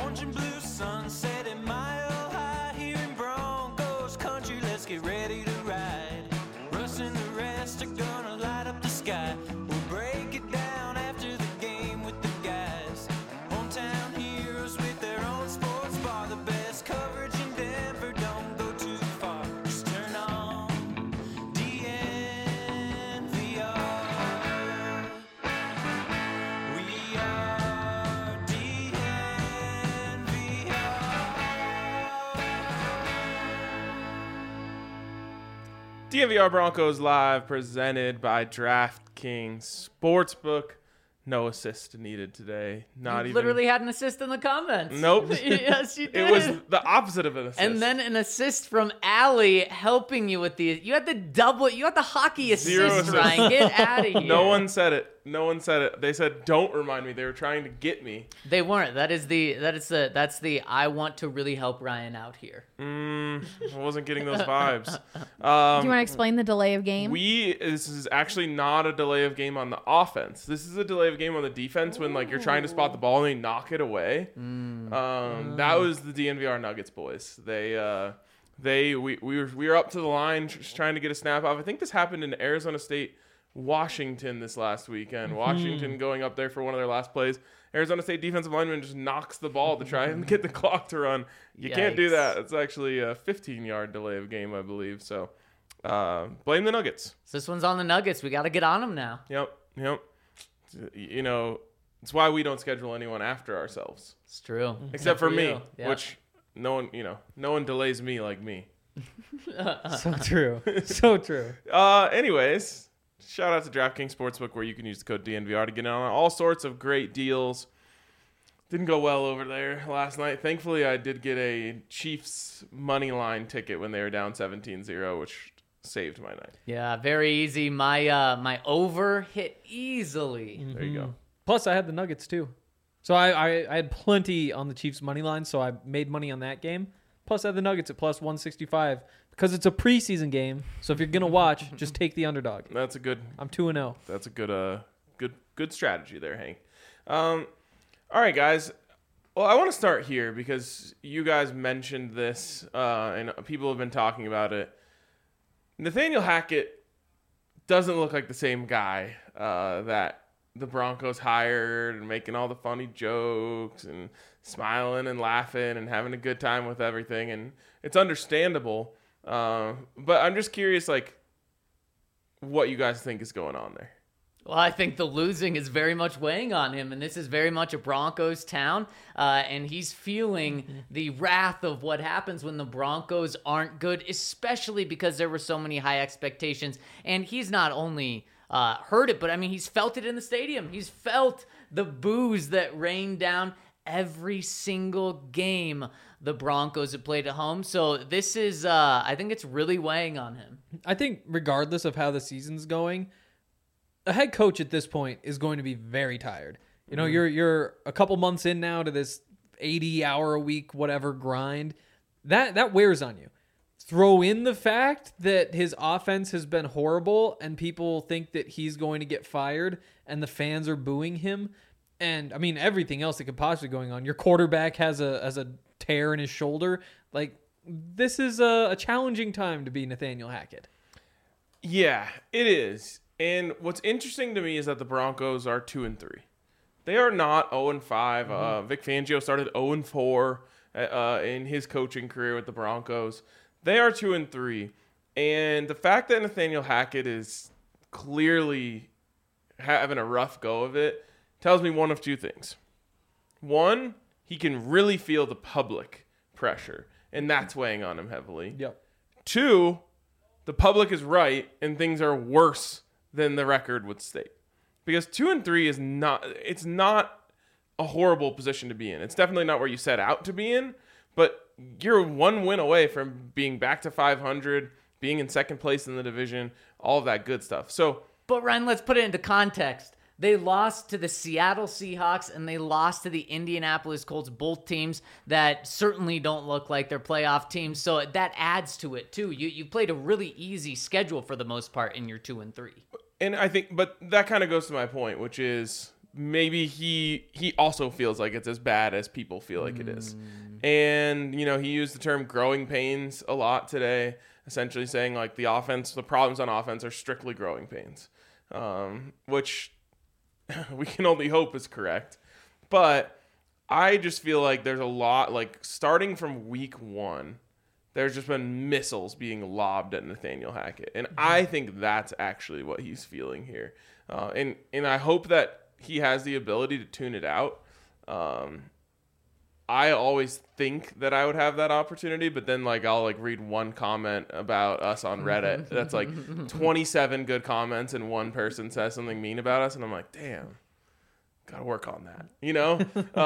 orange and blue sunset at Mile High here in Broncos country. Let's get ready to ride. Russ and the rest are gonna light up the sky. We'll break it down after the game with the guys. Hometown heroes with their own sports bar. The best coverage in Denver, don't go too far. Just turn on DNVR. We are DNVR Broncos Live, presented by DraftKings Sportsbook. No assist needed today. Not even. Literally had an assist in the comments. Nope. Yes, you did. It was the opposite of an assist. And then an assist from Allie helping you with the. You had the hockey Zero assist, assist. Ryan. Get out of here. No one said it. No one said it. They said, "Don't remind me." They were trying to get me. They weren't. That's the I want to really help Ryan out here. I wasn't getting those vibes. Do you want to explain the delay of game? This is actually not a delay of game on the offense. This is a delay of game on the defense when like you're trying to spot the ball and they knock it away. That was the DNVR Nuggets boys. We were up to the line just trying to get a snap off. I think this happened in Arizona State, Washington this last weekend. Washington going up there for one of their last plays. Arizona State defensive lineman just knocks the ball to try and get the clock to run. You can't do that. It's actually a 15-yard delay of game, I believe. So blame the Nuggets. So this one's on the Nuggets. We got to get on them now. Yep. You know, it's why we don't schedule anyone after ourselves. It's true. Except for me, you. Yeah. which no one delays me like me. So true. So true. Anyways, shout out to DraftKings Sportsbook, where you can use the code DNVR to get in on all sorts of great deals. Didn't go well over there last night. Thankfully, I did get a Chiefs money line ticket when they were down 17-0, which saved my night. Yeah, very easy. My over hit easily. There you go. Plus, I had the Nuggets too. So I had plenty on the Chiefs money line, so I made money on that game. Plus, I had the Nuggets at plus 165 because it's a preseason game. So if you're gonna watch, just take the underdog. That's a good. I'm 2-0. That's a good strategy there, Hank. All right, guys. Well, I want to start here because you guys mentioned this, and people have been talking about it. Nathaniel Hackett doesn't look like the same guy that the Broncos hired and making all the funny jokes and smiling and laughing and having a good time with everything. And it's understandable. But I'm just curious, like, what you guys think is going on there. Well, I think the losing is very much weighing on him, and this is very much a Broncos town, and he's feeling the wrath of what happens when the Broncos aren't good, especially because there were so many high expectations, and he's not only heard it, but I mean, he's felt it in the stadium. He's felt the boos that rained down every single game the Broncos have played at home, so this is, I think it's really weighing on him. I think regardless of how the season's going, a head coach at this point is going to be very tired. You know, you're a couple months in now to this 80-hour-a-week whatever grind. That wears on you. Throw in the fact that his offense has been horrible and people think that he's going to get fired and the fans are booing him. And I mean, everything else that could possibly be going on. Your quarterback has a tear in his shoulder. Like, this is a challenging time to be Nathaniel Hackett. Yeah, it is. And what's interesting to me is that the Broncos are 2-3. They are not 0-5. Vic Fangio started 0-4 in his coaching career with the Broncos. They are 2-3. And the fact that Nathaniel Hackett is clearly having a rough go of it tells me one of two things. One, he can really feel the public pressure, and that's weighing on him heavily. Yep. Two, the public is right, and things are worse than the record would state. Because 2-3 is not a horrible position to be in. It's definitely not where you set out to be in, but you're one win away from being back to 500, being in second place in the division, all of that good stuff. So, but Ryan, let's put it into context. They lost to the Seattle Seahawks and they lost to the Indianapolis Colts, both teams that certainly don't look like they're playoff teams. So that adds to it too. You played a really easy schedule for the most part in your 2-3. And I think, but that kind of goes to my point, which is maybe he also feels like it's as bad as people feel like it is. And, you know, he used the term growing pains a lot today, essentially saying like the problems on offense are strictly growing pains, which we can only hope is correct. But I just feel like there's a lot, like starting from week 1, there's just been missiles being lobbed at Nathaniel Hackett. And I think that's actually what he's feeling here. And I hope that he has the ability to tune it out. I always think that I would have that opportunity, but then like I'll like read one comment about us on Reddit that's like 27 good comments and one person says something mean about us, and I'm like, damn, gotta work on that, you know?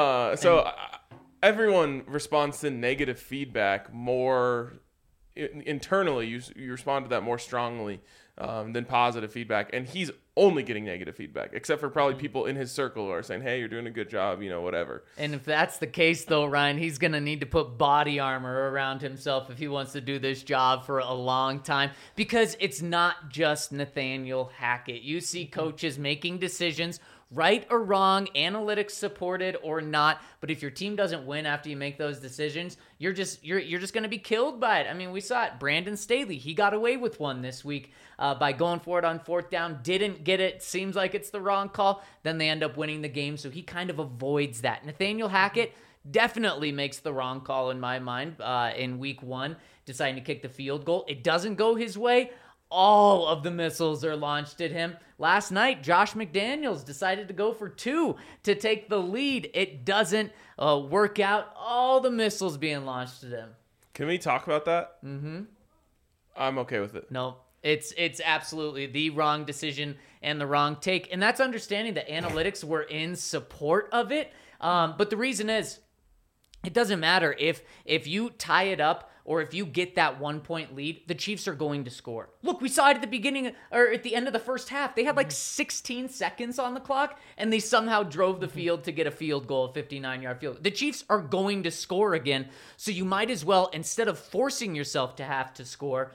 Everyone responds to negative feedback more internally. You respond to that more strongly than positive feedback, and he's only getting negative feedback, except for probably people in his circle who are saying, hey, you're doing a good job, you know, whatever. And if that's the case, though, Ryan, he's going to need to put body armor around himself if he wants to do this job for a long time, because it's not just Nathaniel Hackett. You see coaches making decisions, right or wrong, analytics supported or not, but if your team doesn't win after you make those decisions, you're just going to be killed by it. I mean, we saw it. Brandon Staley, he got away with one this week by going for it on 4th down, didn't get it, seems like it's the wrong call, then they end up winning the game, so he kind of avoids that. Nathaniel Hackett definitely makes the wrong call in my mind in week 1, deciding to kick the field goal. It doesn't go his way. All of the missiles are launched at him. Last night, Josh McDaniels decided to go for 2 to take the lead. It doesn't work out. All the missiles being launched at him. Can we talk about that? Mm-hmm. I'm okay with it. No, it's absolutely the wrong decision and the wrong take. And that's understanding that analytics were in support of it. But the reason is, it doesn't matter if you tie it up or if you get that 1-point lead, the Chiefs are going to score. Look, we saw it at the beginning or at the end of the first half. They had like 16 seconds on the clock, and they somehow drove the field to get a field goal, a 59-yard field. The Chiefs are going to score again, so you might as well, instead of forcing yourself to have to score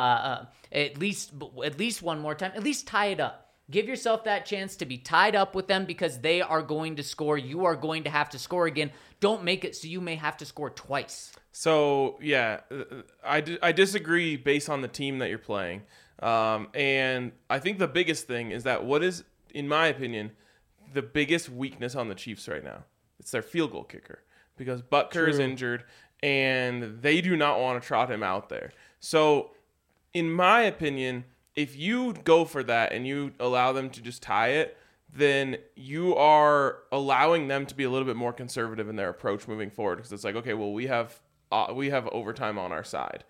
at least one more time, at least tie it up. Give yourself that chance to be tied up with them because they are going to score. You are going to have to score again. Don't make it so you may have to score twice. So, yeah, I disagree based on the team that you're playing. And I think the biggest thing is that what is, in my opinion, the biggest weakness on the Chiefs right now? It's their field goal kicker, because Butker is injured and they do not want to trot him out there. So, in my opinion, if you go for that and you allow them to just tie it, then you are allowing them to be a little bit more conservative in their approach moving forward, because it's like, okay, well, we have overtime on our side.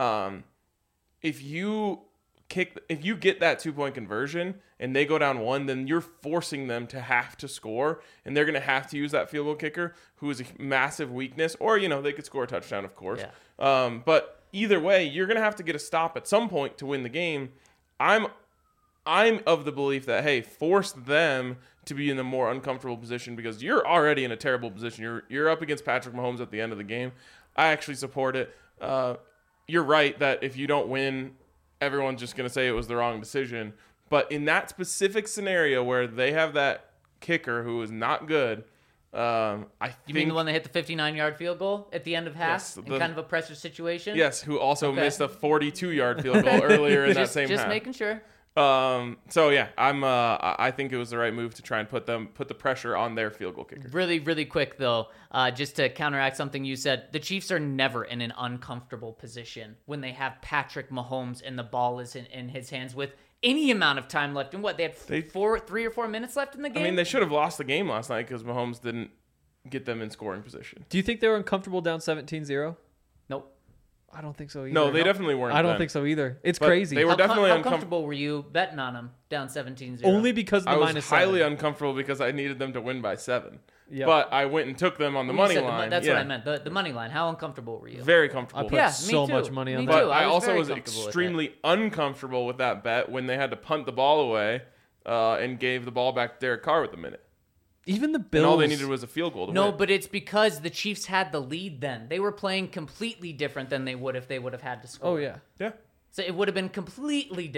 If you get that 2-point conversion and they go down 1, then you're forcing them to have to score, and they're going to have to use that field goal kicker, who is a massive weakness. Or, you know, they could score a touchdown, of course. Yeah. But either way, you're going to have to get a stop at some point to win the game. I'm of the belief that, hey, force them to be in a more uncomfortable position, because you're already in a terrible position. You're up against Patrick Mahomes at the end of the game. I actually support it. You're right that if you don't win, everyone's just going to say it was the wrong decision. But in that specific scenario where they have that kicker who is not good, You mean the one that hit the 59-yard field goal at the end of half, yes, in kind of a pressure situation? Yes, who also missed a 42-yard field goal earlier in that same half. Just making sure. So yeah, I think it was the right move to try and put the pressure on their field goal kicker. Really, really quick though, just to counteract something you said, the Chiefs are never in an uncomfortable position when they have Patrick Mahomes and the ball is in his hands with any amount of time left. And what, they had 3 or 4 minutes left in the game? I mean, they should have lost the game last night because Mahomes didn't get them in scoring position. Do you think they were uncomfortable down 17-0? Nope. I don't think so either. No, they definitely weren't. I don't think so either. It's crazy. They were definitely How comfortable were you betting on them down 17-0? Only because of the I was highly -7. uncomfortable because I needed them to win by 7. Yep. But I went and took them on the money line. That's what I meant. The money line. How uncomfortable were you? Very comfortable. I put so much money on that. But I also was extremely uncomfortable with that bet when they had to punt the ball away and gave the ball back to Derek Carr with a minute. Even the Bills. And all they needed was a field goal to win. No, but it's because the Chiefs had the lead then. They were playing completely different than they would if they would have had to score. Oh, yeah. Yeah. So it would have been completely different.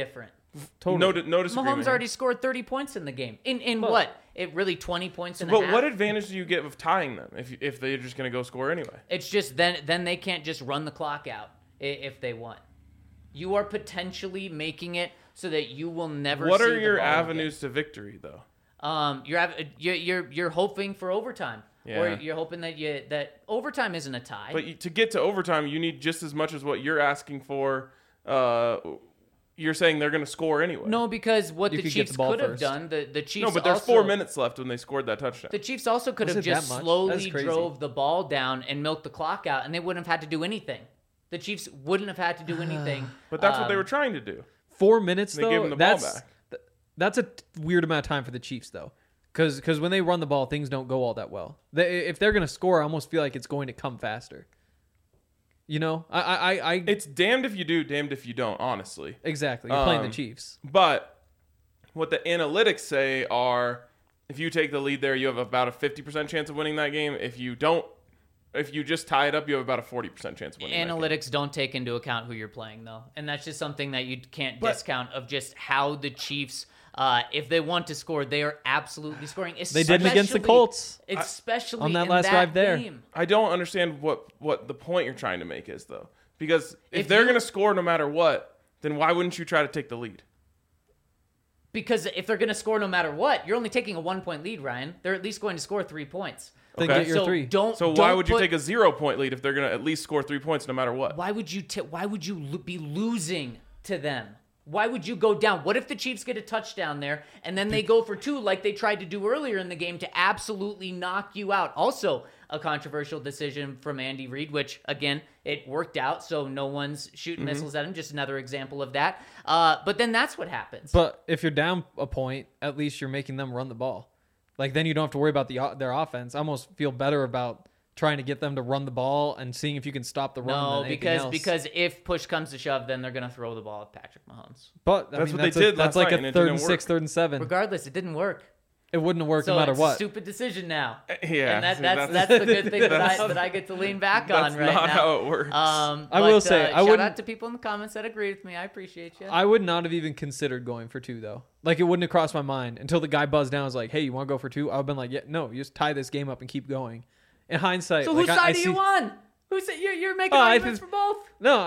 Totally. No disagreement. Mahomes already scored 30 points in the game. In Well, what? It really 20 points in a But half? what advantage do you get of tying them if they're just going to go score anyway? It's just then they can't just run the clock out if they want. You are potentially making it so that you will never What see are the your ball avenues to victory, though? again. You're hoping for overtime. Yeah. Or you're hoping that overtime isn't a tie. But to get to overtime, you need just as much as what you're asking for. You're saying they're going to score anyway. No, because what You the could get Chiefs the ball could have first. done, the Chiefs No, but there's also, 4 minutes left when they scored that touchdown. The Chiefs also could Was have it that just much? That's slowly crazy. drove the ball down and milked the clock out, and they wouldn't have had to do anything. The Chiefs wouldn't have had to do anything. But that's what they were trying to do. 4 minutes They though. gave him the ball back. That's a weird amount of time for the Chiefs though, because when they run the ball, things don't go all that well. If they're gonna score, I almost feel like it's going to come faster. You know, I It's damned if you do, damned if you don't, honestly. exactly. You're playing the Chiefs. But what the analytics say are if you take the lead there, you have about a 50% chance of winning that game. If you just tie it up, you have about a 40% chance of winning that game. Analytics don't take into account who you're playing, though. And that's just something that you can't discount of just how the Chiefs, if they want to score, they are absolutely scoring. They did it against the Colts. Especially on that in last that drive there. game. I don't understand what the point you're trying to make is, though. Because if If they're you- going to score no matter what, then why wouldn't you try to take the lead? Because if they're going to score no matter what, you're only taking a 1-point lead, Ryan. They're at least going to score 3 points. Then Okay. get your So 3. So why don't would you put- take a 0-point lead if they're going to at least score 3 points no matter what? Why would you be losing to them? Why would you go down? What if the Chiefs get a touchdown there and then they go for 2 like they tried to do earlier in the game to absolutely knock you out? Also, a controversial decision from Andy Reid, which, again, it worked out, so no one's shooting missiles at him. Just another example of that. But then that's what happens. But if you're down a point, at least you're making them run the ball. Like then you don't have to worry about their offense. I almost feel better about trying to get them to run the ball and seeing if you can stop the run. No, than anything else. because if push comes to shove, then they're going to throw the ball at Patrick Mahomes. But That's what they did That's last like night, and a it 3rd didn't and 6, work. 3rd and 7. Regardless, it didn't work. It wouldn't have worked So no matter it's what. a stupid decision now. Yeah, And see, that's the good thing that I get to lean back on That's right not now. how it works. I will say, I shout wouldn't- out to people in the comments that agree with me. I appreciate you. I would not have even considered going for 2 though. Like it wouldn't have crossed my mind until the guy buzzed down. I was like, "Hey, you want to go for 2?" I would have been like, "Yeah, no, you just tie this game up and keep going." In hindsight, So like, whose I side are see- you on? Who's you're making Oh, I arguments think- for both? No,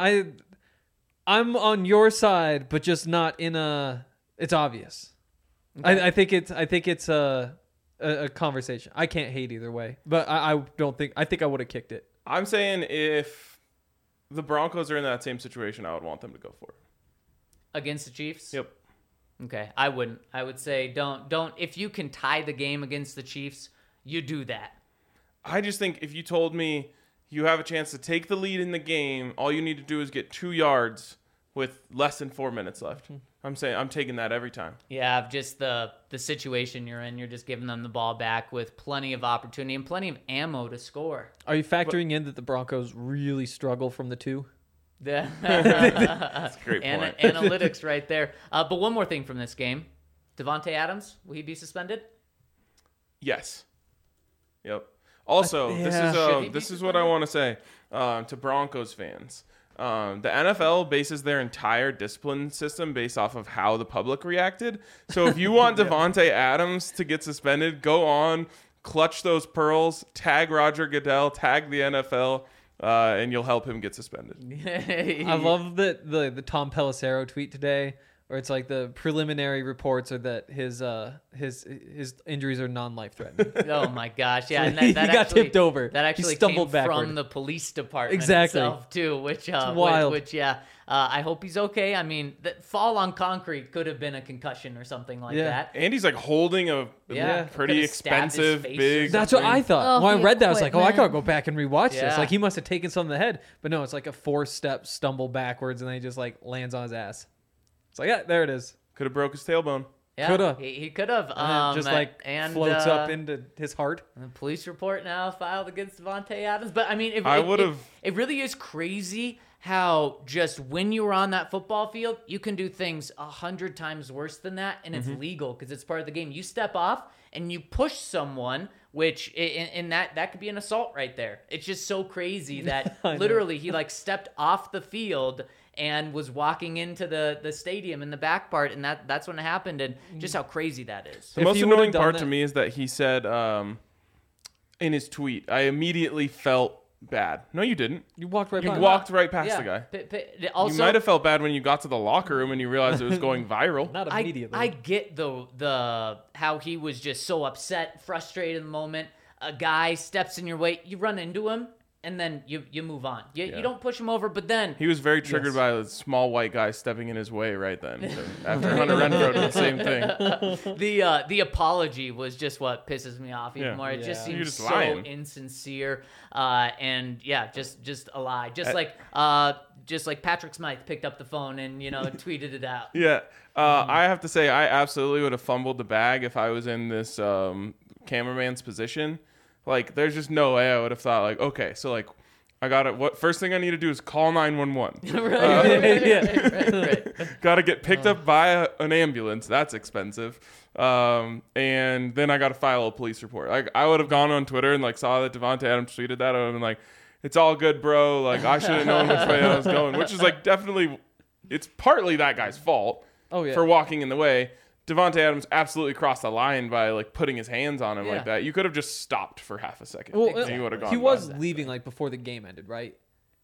I'm on your side, but just not in a. It's obvious. I think it's a conversation. I can't hate either way, but I don't think. I think I would have kicked it. I'm saying if the Broncos are in that same situation, I would want them to go for it. Against the Chiefs? Yep. Okay, I wouldn't. I would say don't. If you can tie the game against the Chiefs, you do that. I just think if you told me you have a chance to take the lead in the game, all you need to do is get 2 yards with less than 4 minutes left. I'm saying I'm taking that every time. Yeah, just the situation you're in. You're just giving them the ball back with plenty of opportunity and plenty of ammo to score. Are you factoring in that the Broncos really struggle from the 2? That's That's a great point. Analytics right there. But one more thing from this game. Devontae Adams, will he be suspended? Yes. Yep. Also, Should he be this is what I want to say to Broncos fans. The NFL bases their entire discipline system based off of how the public reacted. So if you want Devontae Adams to get suspended, go on, clutch those pearls, tag Roger Goodell, tag the NFL, and you'll help him get suspended. I love that the Tom Pelissero tweet today, where it's like the preliminary reports are that his injuries are non-life threatening. Oh my gosh, yeah, and He that got actually, tipped over. That He actually stumbled came backward. from the police department Exactly. itself too, which wild. I hope he's okay. I mean, that fall on concrete could have been a concussion or something like Yeah. that. Andy's like holding a Yeah. pretty Could've stabbed his expensive, face or big. That's what I thought. Oh, when I the read that, I was like, "Oh, I gotta equipment. go back and rewatch this." Yeah. Like he must have taken something to the head, but no, it's like a 4-step stumble backwards, and then he just like lands on his ass. It's like, yeah, there it is. Could have broke his tailbone. Yeah, Coulda. he could have. And it just like floats up into his heart. A police report now filed against Devontae Adams. But I mean, I would've- It really is crazy how just when you were on that football field, you can do things 100 times worse than that, and it's legal because it's part of the game. You step off and you push someone, which in that could be an assault right there. It's just so crazy that I know. literally he like stepped off the field and was walking into the stadium in the back part, and that's when it happened, and just how crazy that is. The most annoying part to me is that he said in his tweet, I immediately felt bad. No, you didn't. You walked right past. You walked right past the guy. Also, you might have felt bad when you got to the locker room and you realized it was going viral. Not immediately. I get the how he was just so upset, frustrated in the moment. A guy steps in your way, you run into him, and then you move on. You don't push him over, but then he was very triggered by a small white guy stepping in his way right then. After Hunter Renfrow did the same thing. The apology was just what pisses me off even more. It just seems so insincere, and just a lie. Just like Patrick Smythe picked up the phone and tweeted it out. Yeah, I have to say I absolutely would have fumbled the bag if I was in this cameraman's position. Like, there's just no way I would have thought, like, okay, so, like, I got it. What first thing I need to do is call 911. Right. Got to get picked up by an ambulance. That's expensive. And then I got to file a police report. Like, I would have gone on Twitter and, like, saw that Davante Adams tweeted that. I would have been like, it's all good, bro. Like, I should have known which way I was going, which is, like, definitely, it's partly that guy's fault for walking in the way. Davante Adams absolutely crossed the line by like putting his hands on him like that. You could have just stopped for half a second. Well, and he would have gone. He was leaving like before the game ended, right?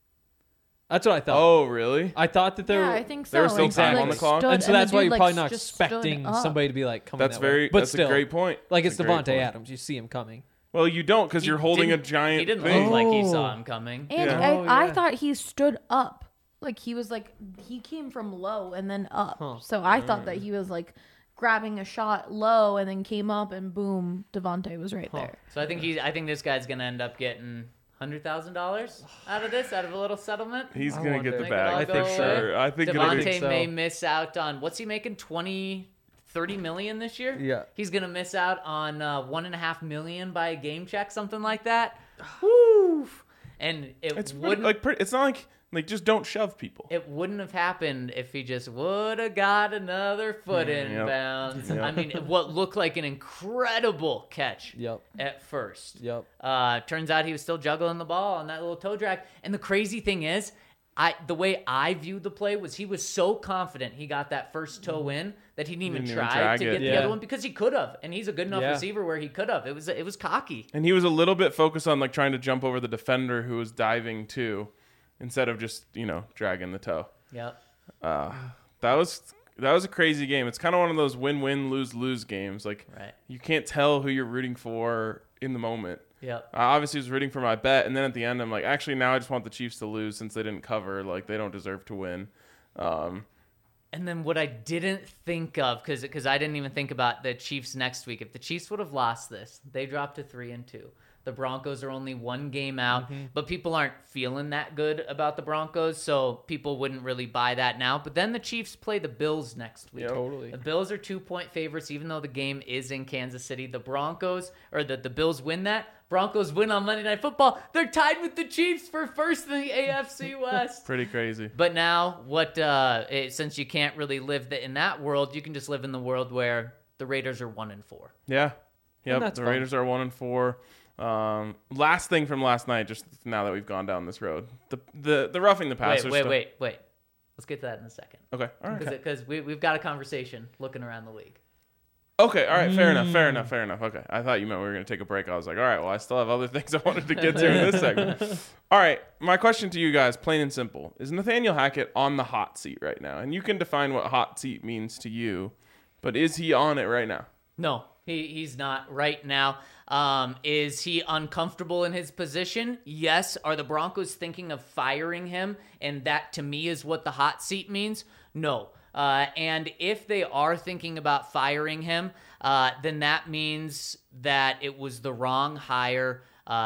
That's what I thought. Oh, really? I thought that I think so. There was still time on the clock, and so that's why you're probably not expecting somebody to be like coming. That's that's a great point. Like it's Davante Adams, you see him coming. Well, you don't because you're holding a giant. He didn't thing. look like he saw him coming. And I thought he stood up, like he was like he came from low and then up. So I thought that he was like grabbing a shot low and then came up and boom, Davante was right there. So I think this guy's gonna end up getting $100,000 out of this, out of a little settlement. He's gonna get the bag for sure. I think Davante may miss out on what's he making, 30 million this year? Yeah. He's gonna miss out on $1.5 million by a game check, something like that. Woo! And it's not like just don't shove people. It wouldn't have happened if he just would have got another foot in bounds. I mean, what looked like an incredible catch at first. Turns out he was still juggling the ball on that little toe drag. And the crazy thing is, the way I viewed the play was he was so confident he got that first toe in that he didn't even try to get the other one because he could have. And he's a good enough receiver where he could have. It was cocky. And he was a little bit focused on like trying to jump over the defender who was diving too, instead of just, dragging the toe. Yep. That was a crazy game. It's kind of one of those win-win, lose-lose games. Like, you can't tell who you're rooting for in the moment. Yep. I obviously was rooting for my bet, and then at the end, I'm like, actually, now I just want the Chiefs to lose since they didn't cover. Like, they don't deserve to win. And then what I didn't think of, because I didn't even think about the Chiefs next week. If the Chiefs would have lost this, they dropped to 3-2. The Broncos are only one game out, but people aren't feeling that good about the Broncos, so people wouldn't really buy that now. But then the Chiefs play the Bills next week. Yep. Totally. The Bills are 2-point favorites, even though the game is in Kansas City. The Bills win that. Broncos win on Monday Night Football. They're tied with the Chiefs for first in the AFC West. Pretty crazy. But now, since you can't really live in that world, you can just live in the world where the Raiders are 1-4. Yeah. Yep. The Raiders are 1-4. Last thing from last night, just now that we've gone down this road, the roughing the passer. Wait. Let's get to that in a second. Okay. All right. Because we've got a conversation looking around the league. Okay. All right. Fair enough. Okay. I thought you meant we were going to take a break. I was like, all right, well, I still have other things I wanted to get to in this segment. All right. My question to you guys, plain and simple, is Nathaniel Hackett on the hot seat right now? And you can define what hot seat means to you, but is he on it right now? No, he's not right now. Is he uncomfortable in his position? Yes. Are the Broncos thinking of firing him? And that, to me, is what the hot seat means? No. And if they are thinking about firing him, then that means that it was the wrong hire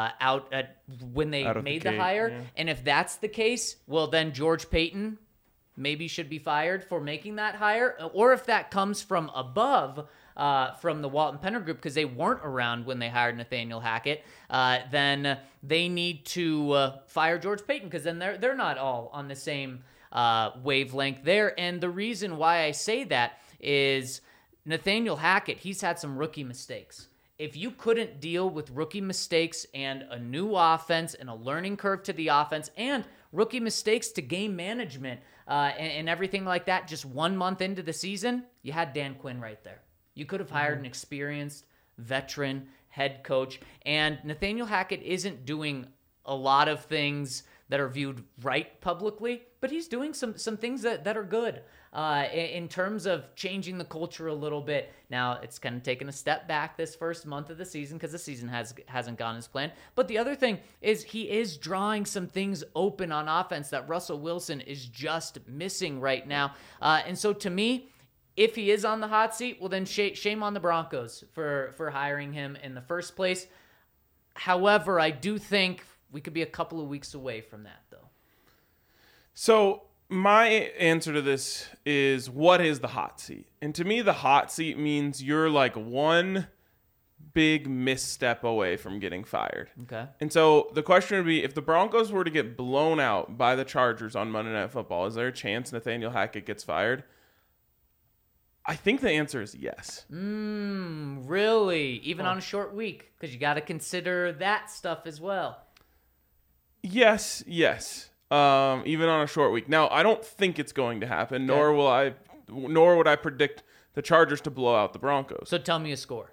when they made the hire. Yeah. And if that's the case, well, then George Paton maybe should be fired for making that hire. Or if that comes from above, from the Walton Penner Group, because they weren't around when they hired Nathaniel Hackett, then they need to fire George Paton, because then they're not all on the same wavelength there. And the reason why I say that is Nathaniel Hackett, he's had some rookie mistakes. If you couldn't deal with rookie mistakes and a new offense and a learning curve to the offense and rookie mistakes to game management, and everything like that. Just 1 month into the season, you had Dan Quinn right there. You could have hired an experienced veteran head coach, and Nathaniel Hackett isn't doing a lot of things that are viewed right publicly, but he's doing some things that are good in terms of changing the culture a little bit. Now, it's kind of taken a step back this first month of the season because the season hasn't gone as planned. But the other thing is he is drawing some things open on offense that Russell Wilson is just missing right now. And so to me, if he is on the hot seat, well, then shame on the Broncos for hiring him in the first place. However, I do think we could be a couple of weeks away from that, though. So my answer to this is, what is the hot seat? And to me, the hot seat means you're like one big misstep away from getting fired. Okay. And so the question would be, if the Broncos were to get blown out by the Chargers on Monday Night Football, is there a chance Nathaniel Hackett gets fired? I think the answer is yes. Really? Even on a short week? Because you got to consider that stuff as well. Yes. Even on a short week. Now, I don't think it's going to happen, nor would I predict the Chargers to blow out the Broncos. So tell me a score.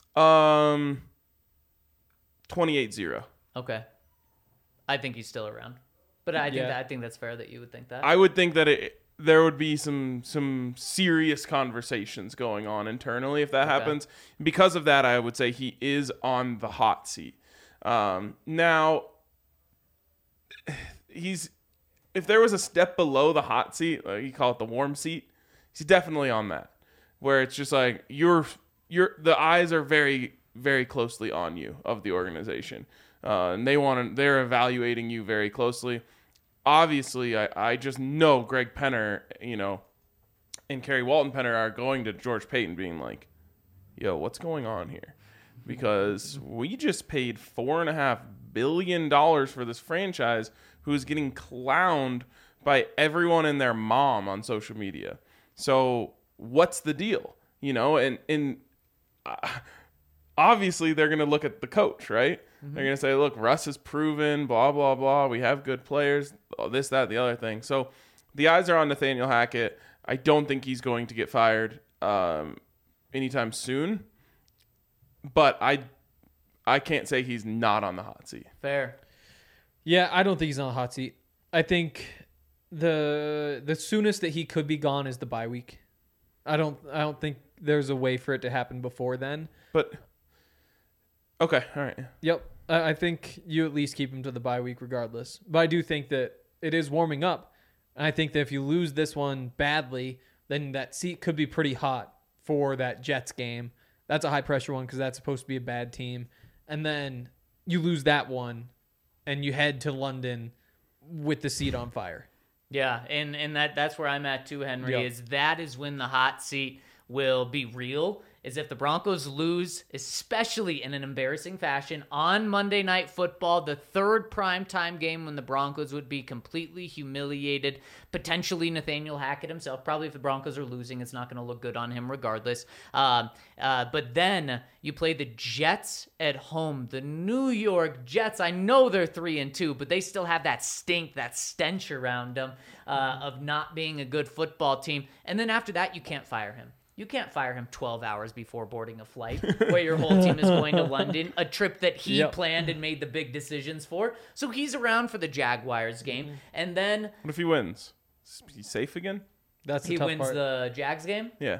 28-0. Okay. I think he's still around. But I think that's fair that you would think that. I would think that there would be some serious conversations going on internally if that happens. Because of that, I would say he is on the hot seat. Now, if there was a step below the hot seat, like you call it the warm seat, he's definitely on that, where it's just like the eyes are very, very closely on you of the organization, and they're evaluating you very closely. Obviously, I just know Greg Penner, and Kerry Walton Penner are going to George Payton being like, yo, what's going on here? Because we just paid $4.5 billion for this franchise who's getting clowned by everyone and their mom on social media. So what's the deal? And obviously they're going to look at the coach, right? Mm-hmm. They're going to say, look, Russ is proven, blah, blah, blah. We have good players, this, that, the other thing. So the eyes are on Nathaniel Hackett. I don't think he's going to get fired anytime soon. But I can't say he's not on the hot seat. Fair. Yeah, I don't think he's on the hot seat. I think the soonest that he could be gone is the bye week. I don't think there's a way for it to happen before then. But okay, all right. Yep. I think you at least keep him to the bye week regardless. But I do think that it is warming up. And I think that if you lose this one badly, then that seat could be pretty hot for that Jets game. That's a high-pressure one because that's supposed to be a bad team. And then you lose that one, and you head to London with the seat on fire. Yeah, and that's where I'm at too, Henry, Yep. is that is when the hot seat will be real, is if the Broncos lose, especially in an embarrassing fashion, on Monday Night Football, the third primetime game when the Broncos would be completely humiliated, potentially Nathaniel Hackett himself. Probably if the Broncos are losing, it's not going to look good on him regardless. But then you play the Jets at home, the New York Jets. I know they're 3-2, but they still have that stink, that stench around them of not being a good football team. And then after that, you can't fire him. You can't fire him 12 hours before boarding a flight where your whole team is going to London, a trip that he planned and made the big decisions for. So he's around for the Jaguars game. And then... What if he wins? Is he safe again? That's the he tough wins part. the Jags game? Yeah.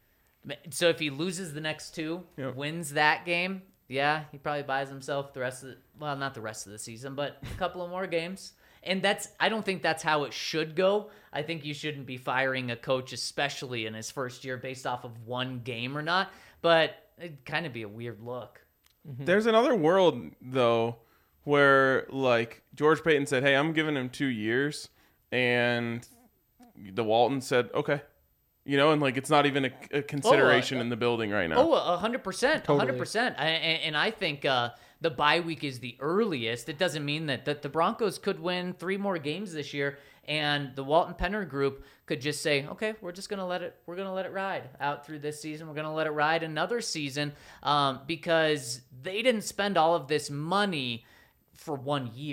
So if he loses the next two, wins that game, yeah, he probably buys himself the rest of the... Well, not the rest of the season, but a couple of more games. And I don't think that's how it should go. I think you shouldn't be firing a coach, especially in his first year, based off of one game or not. But it'd kind of be a weird look. There's another world, though, where, like, George Payton said, hey, I'm giving him 2 years. And the Walton said, okay. And, like, it's not even a consideration in the building right now. 100%. Totally. 100%. And I think... the bye week is the earliest. It doesn't mean that the Broncos could win 3 more games this year, and the Walton Penner group could just say, okay, we're going to let it ride out through this season. We're going to let it ride another season because they didn't spend all of this money for 1 year.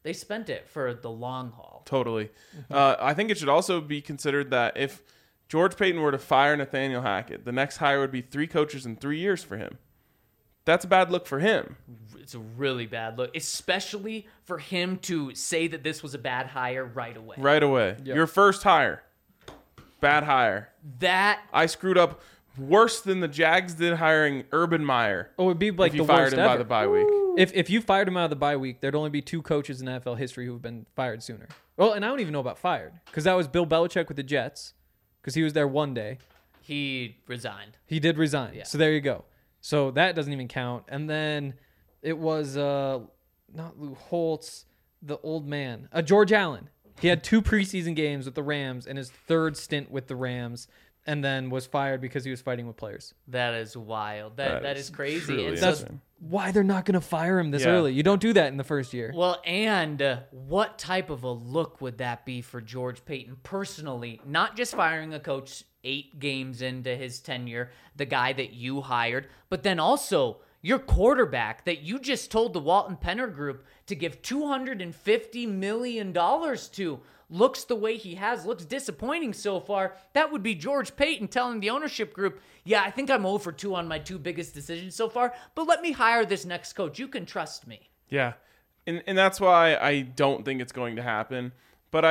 They spent it for the long haul. Totally. I think it should also be considered that if George Paton were to fire Nathaniel Hackett, the next hire would be 3 coaches in 3 years for him. That's a bad look for him. It's a really bad look, especially for him to say that this was a bad hire right away. Right away. Yep. Your first hire. Bad hire. That I screwed up worse than the Jags did hiring Urban Meyer. Oh, it'd be like If you the fired worst him ever. by the bye week. If you fired him out of the bye week, there'd only be 2 coaches in NFL history who've been fired sooner. Well, and I don't even know about fired, because that was Bill Belichick with the Jets, because he was there one day. he resigned. He did resign. Yeah. So there you go. So that doesn't even count. And then it was not Lou Holtz, the old man, George Allen. He had 2 preseason games with the Rams and his 3rd stint with the Rams, and then was fired because he was fighting with players. That is wild. That is crazy. truly And That's insane. why they're not going to fire him this Yeah. early. You don't do that in the first year. well, and what type of a look would that be for George Paton personally? Not just firing a coach 8 games into his tenure, the guy that you hired, but then also your quarterback that you just told the Walton Penner Group to give $250 million to. Looks the way he has, looks disappointing so far. That would be George Paton telling the ownership group, yeah, I think I'm 0 for 2 on my 2 biggest decisions so far, but let me hire this next coach. You can trust me. Yeah. And that's why I don't think it's going to happen. But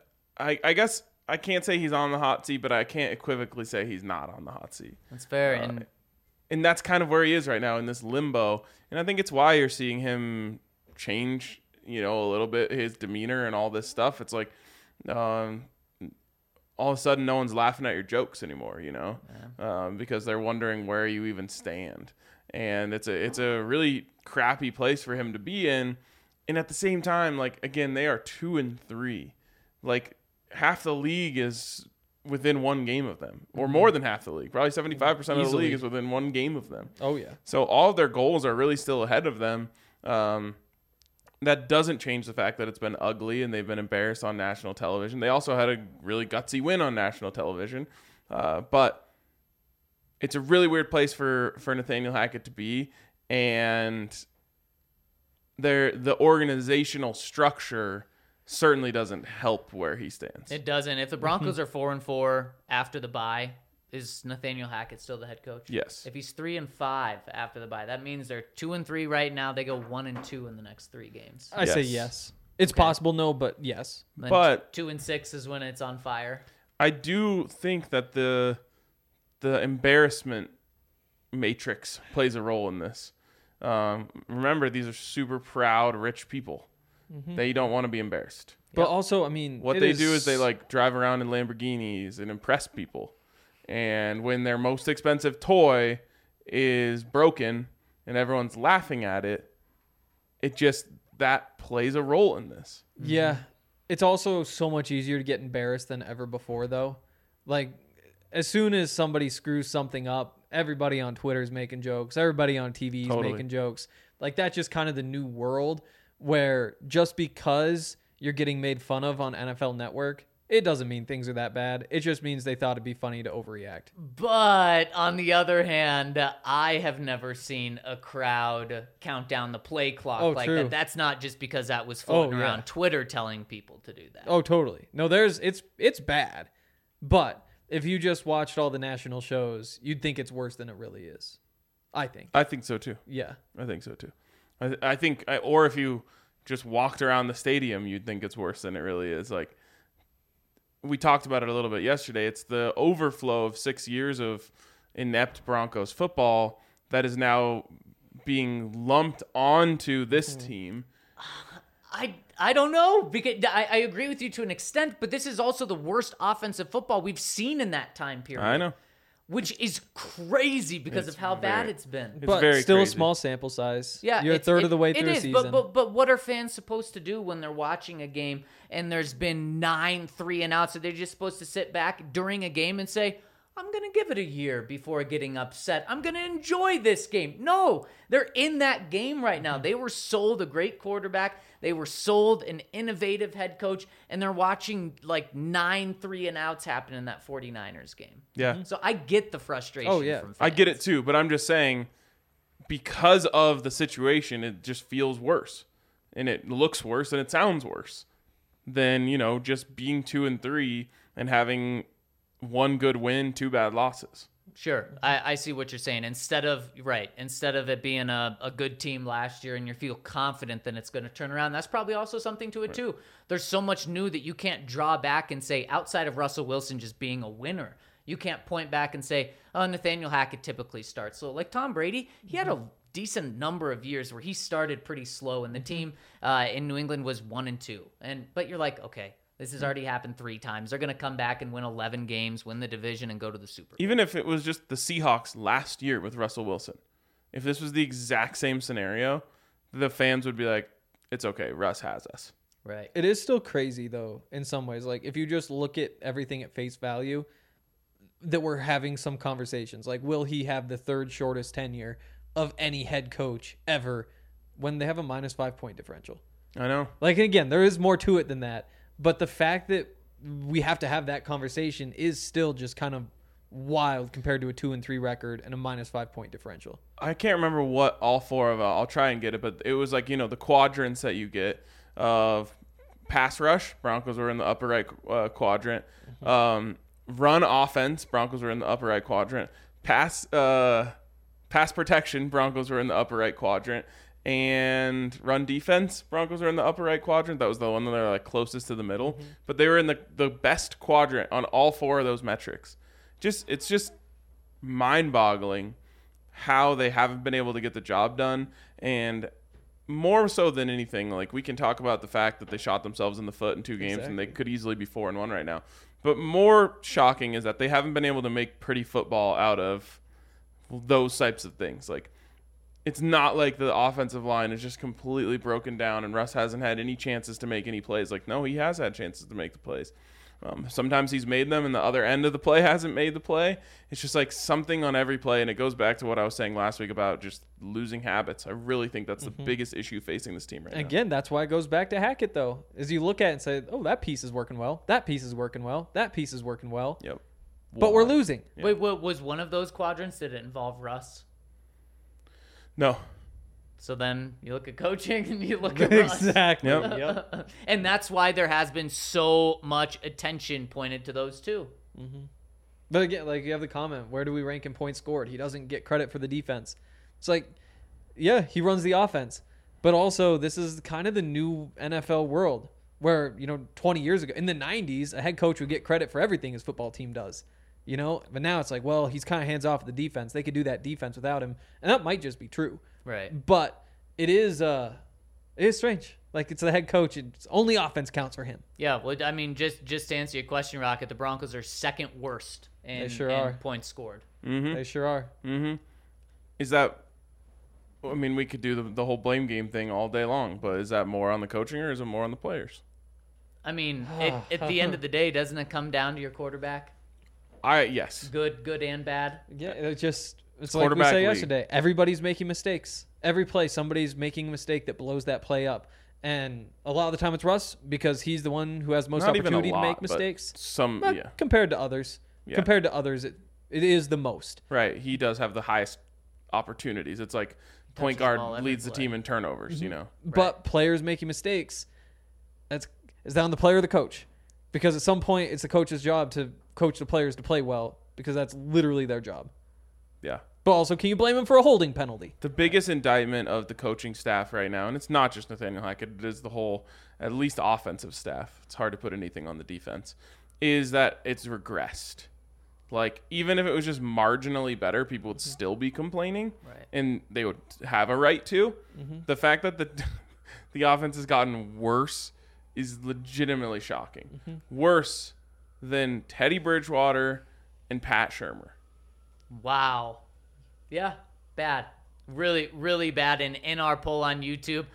I guess I can't say he's on the hot seat, but I can't equivocally say he's not on the hot seat. That's fair. And And that's kind of where he is right now in this limbo. And I think it's why you're seeing him change, a little bit his demeanor and all this stuff. It's like all of a sudden no one's laughing at your jokes anymore, because they're wondering where you even stand. And it's a really crappy place for him to be in. And at the same time, like, again, they are 2-3. Like, half the league is within 1 game of them, or more than half the league. Probably 75% of the Easily. league is within 1 game of them. Oh, yeah. So all of their goals are really still ahead of them. That doesn't change the fact that it's been ugly and they've been embarrassed on national television. They also had a really gutsy win on national television. But it's a really weird place for Nathaniel Hackett to be. And the organizational structure certainly doesn't help where he stands. it doesn't. If the Broncos are 4-4 after the bye, is Nathaniel Hackett still the head coach? Yes. If he's 3-5 after the bye, that means they're 2-3 right now. They go 1-2 in the next 3 games. I say Yes. yes. It's possible, no, but yes. Then But 2-6 is when it's on fire. I do think that the embarrassment matrix plays a role in this. Remember, these are super proud, rich people. They don't want to be embarrassed. But also, I mean, What it they do is they drive around in Lamborghinis and impress people. And when their most expensive toy is broken and everyone's laughing at it, that plays a role in this. Yeah. It's also so much easier to get embarrassed than ever before, though. Like, as soon as somebody screws something up, everybody on Twitter is making jokes. Everybody on TV is Totally. making jokes. Like, that's just kind of the new world where just because you're getting made fun of on NFL Network, it doesn't mean things are that bad. It just means they thought it'd be funny to overreact. But on the other hand, I have never seen a crowd count down the play clock like true. that. That's not just because that was floating yeah. around Twitter telling people to do that. Oh, totally. No, it's bad. But if you just watched all the national shows, you'd think it's worse than it really is. I think. I think so too. Yeah. I think so too. I think, or if you just walked around the stadium, you'd think it's worse than it really is. Like, we talked about it a little bit yesterday. It's the overflow of 6 years of inept Broncos football that is now being lumped onto this team. I don't know, because I agree with you to an extent, but this is also the worst offensive football we've seen in that time period. I know. Which is crazy because It's of how bad very- it's been. It's But very still crazy. a small sample size. Yeah, You're a third of the way through a is, season. But what are fans supposed to do when they're watching a game and there's been 9 3-and-outs? Are they just supposed to sit back during a game and say, I'm going to give it a year before getting upset. I'm going to enjoy this game. No, they're in that game right now. They were sold a great quarterback. They were sold an innovative head coach, and they're watching like 9 3-and-outs happen in that 49ers game. Yeah. So I get the frustration Oh, yeah. from fans. I get it too, but I'm just saying because of the situation, it just feels worse. and it looks worse and it sounds worse than, just being 2-3 and having one good win, 2 bad losses. Sure. I see what you're saying. Instead of it being a good team last year and you feel confident that it's going to turn around, that's probably also something to it too. There's so much new that you can't draw back and say, outside of Russell Wilson just being a winner, you can't point back and say, oh, Nathaniel Hackett typically starts. So like Tom Brady, he had a decent number of years where he started pretty slow and the team in New England was 1-2. But you're like, okay, this has already happened 3 times. They're going to come back and win 11 games, win the division, and go to the Super Bowl. Even if it was just the Seahawks last year with Russell Wilson, if this was the exact same scenario, the fans would be like, it's okay, Russ has us. Right. It is still crazy, though, in some ways. Like, if you just look at everything at face value, that we're having some conversations. Like, will he have the 3rd shortest tenure of any head coach ever when they have a -5 point differential? I know. Like, again, there is more to it than that. But the fact that we have to have that conversation is still just kind of wild compared to a 2-3 record and a -5 point differential. I can't remember what all 4 of I'll try and get it, but it was like, the quadrants that you get of pass rush. Broncos were in the upper right quadrant. Run offense. Broncos were in the upper right quadrant. Pass protection. Broncos were in the upper right quadrant. And run defense, Broncos are in the upper right quadrant. That was the one that they're like closest to the middle. But they were in the best quadrant on all 4 of those metrics. It's just mind-boggling how they haven't been able to get the job done. And more so than anything, like, we can talk about the fact that they shot themselves in the foot in 2 games and they could easily be 4-1 right now. But more shocking is that they haven't been able to make pretty football out of those types of things. Like, it's not like the offensive line is just completely broken down and Russ hasn't had any chances to make any plays. Like, no, he has had chances to make the plays. Sometimes he's made them and the other end of the play hasn't made the play. It's just like something on every play, and it goes back to what I was saying last week about just losing habits. I really think that's the biggest issue facing this team right now. Again, that's why it goes back to Hackett, though, is you look at it and say, oh, that piece is working well. That piece is working well. That piece is working well. Yep. But we're losing. Yeah. Wait, what was one of those quadrants? Did it involve Russ? No. So then you look at coaching and you look at Russ. Exactly. Yep. And that's why there has been so much attention pointed to those 2. But again, like, you have the comment, where do we rank in points scored? He doesn't get credit for the defense. It's like, yeah, he runs the offense. But also, this is kind of the new NFL world where, 20 years ago, in the 90s, a head coach would get credit for everything his football team does. But now it's like, well, he's kind of hands off at the defense. They could do that defense without him. And that might just be true. Right. But it is strange. Like, it's the head coach. It's only offense counts for him. Yeah, well, I mean, just to answer your question, Rocket, the Broncos are 2nd worst in points scored. They sure are. Is that, I mean, we could do the whole blame game thing all day long, but is that more on the coaching or is it more on the players? I mean, at the end of the day, doesn't it come down to your quarterback? Yes. Good and bad. Yeah, it's like we said yesterday. Everybody's making mistakes. Every play, somebody's making a mistake that blows that play up. And a lot of the time it's Russ because he's the one who has most opportunity to make mistakes. Compared to others. Yeah. Compared to others, it is the most. Right. He does have the highest opportunities. It's like point guard leads the team in turnovers, But players making mistakes, is that on the player or the coach? Because at some point, it's the coach's job to coach the players to play well because that's literally their job. Yeah. But also, can you blame him for a holding penalty? The biggest indictment of the coaching staff right now, and it's not just Nathaniel Hackett, it is the whole, at least offensive staff. It's hard to put anything on the defense, is that it's regressed. Like, even if it was just marginally better, people would still be complaining, Right. and they would have a right to. The fact that the offense has gotten worse is legitimately shocking. Worse than Teddy Bridgewater and Pat Shurmur. Wow. Yeah, bad. Really, really bad. And in our poll on YouTube,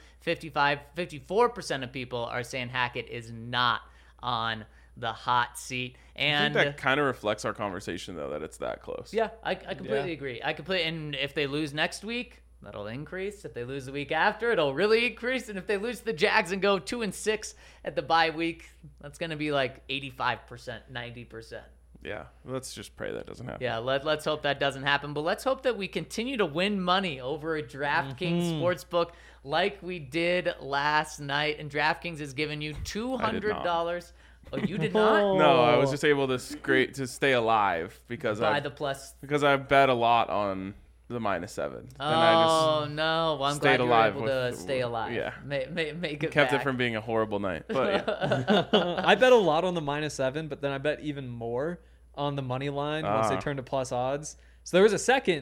54% of people are saying Hackett is not on the hot seat. And I think that kind of reflects our conversation, though, that it's that close. yeah, I completely agree. And if they lose next week, that'll increase. If they lose the week after, it'll really increase. And if they lose the Jags and go 2-6 at the bye week, that's going to be like 85%, 90%. Yeah, let's just pray that doesn't happen. Yeah, let's hope that doesn't happen. But let's hope that we continue to win money over at DraftKings Sportsbook like we did last night. And DraftKings has given you $200. Oh, you did not? No, I was just able to stay alive because I bet a lot on the -7. Oh, no. Well, I'm glad you were able to with- stay alive. Yeah. Make it Kept back. it from being a horrible night. But yeah. I bet a lot on the -7, but then I bet even more on the money line once they Ah. turned to plus odds. So there was a second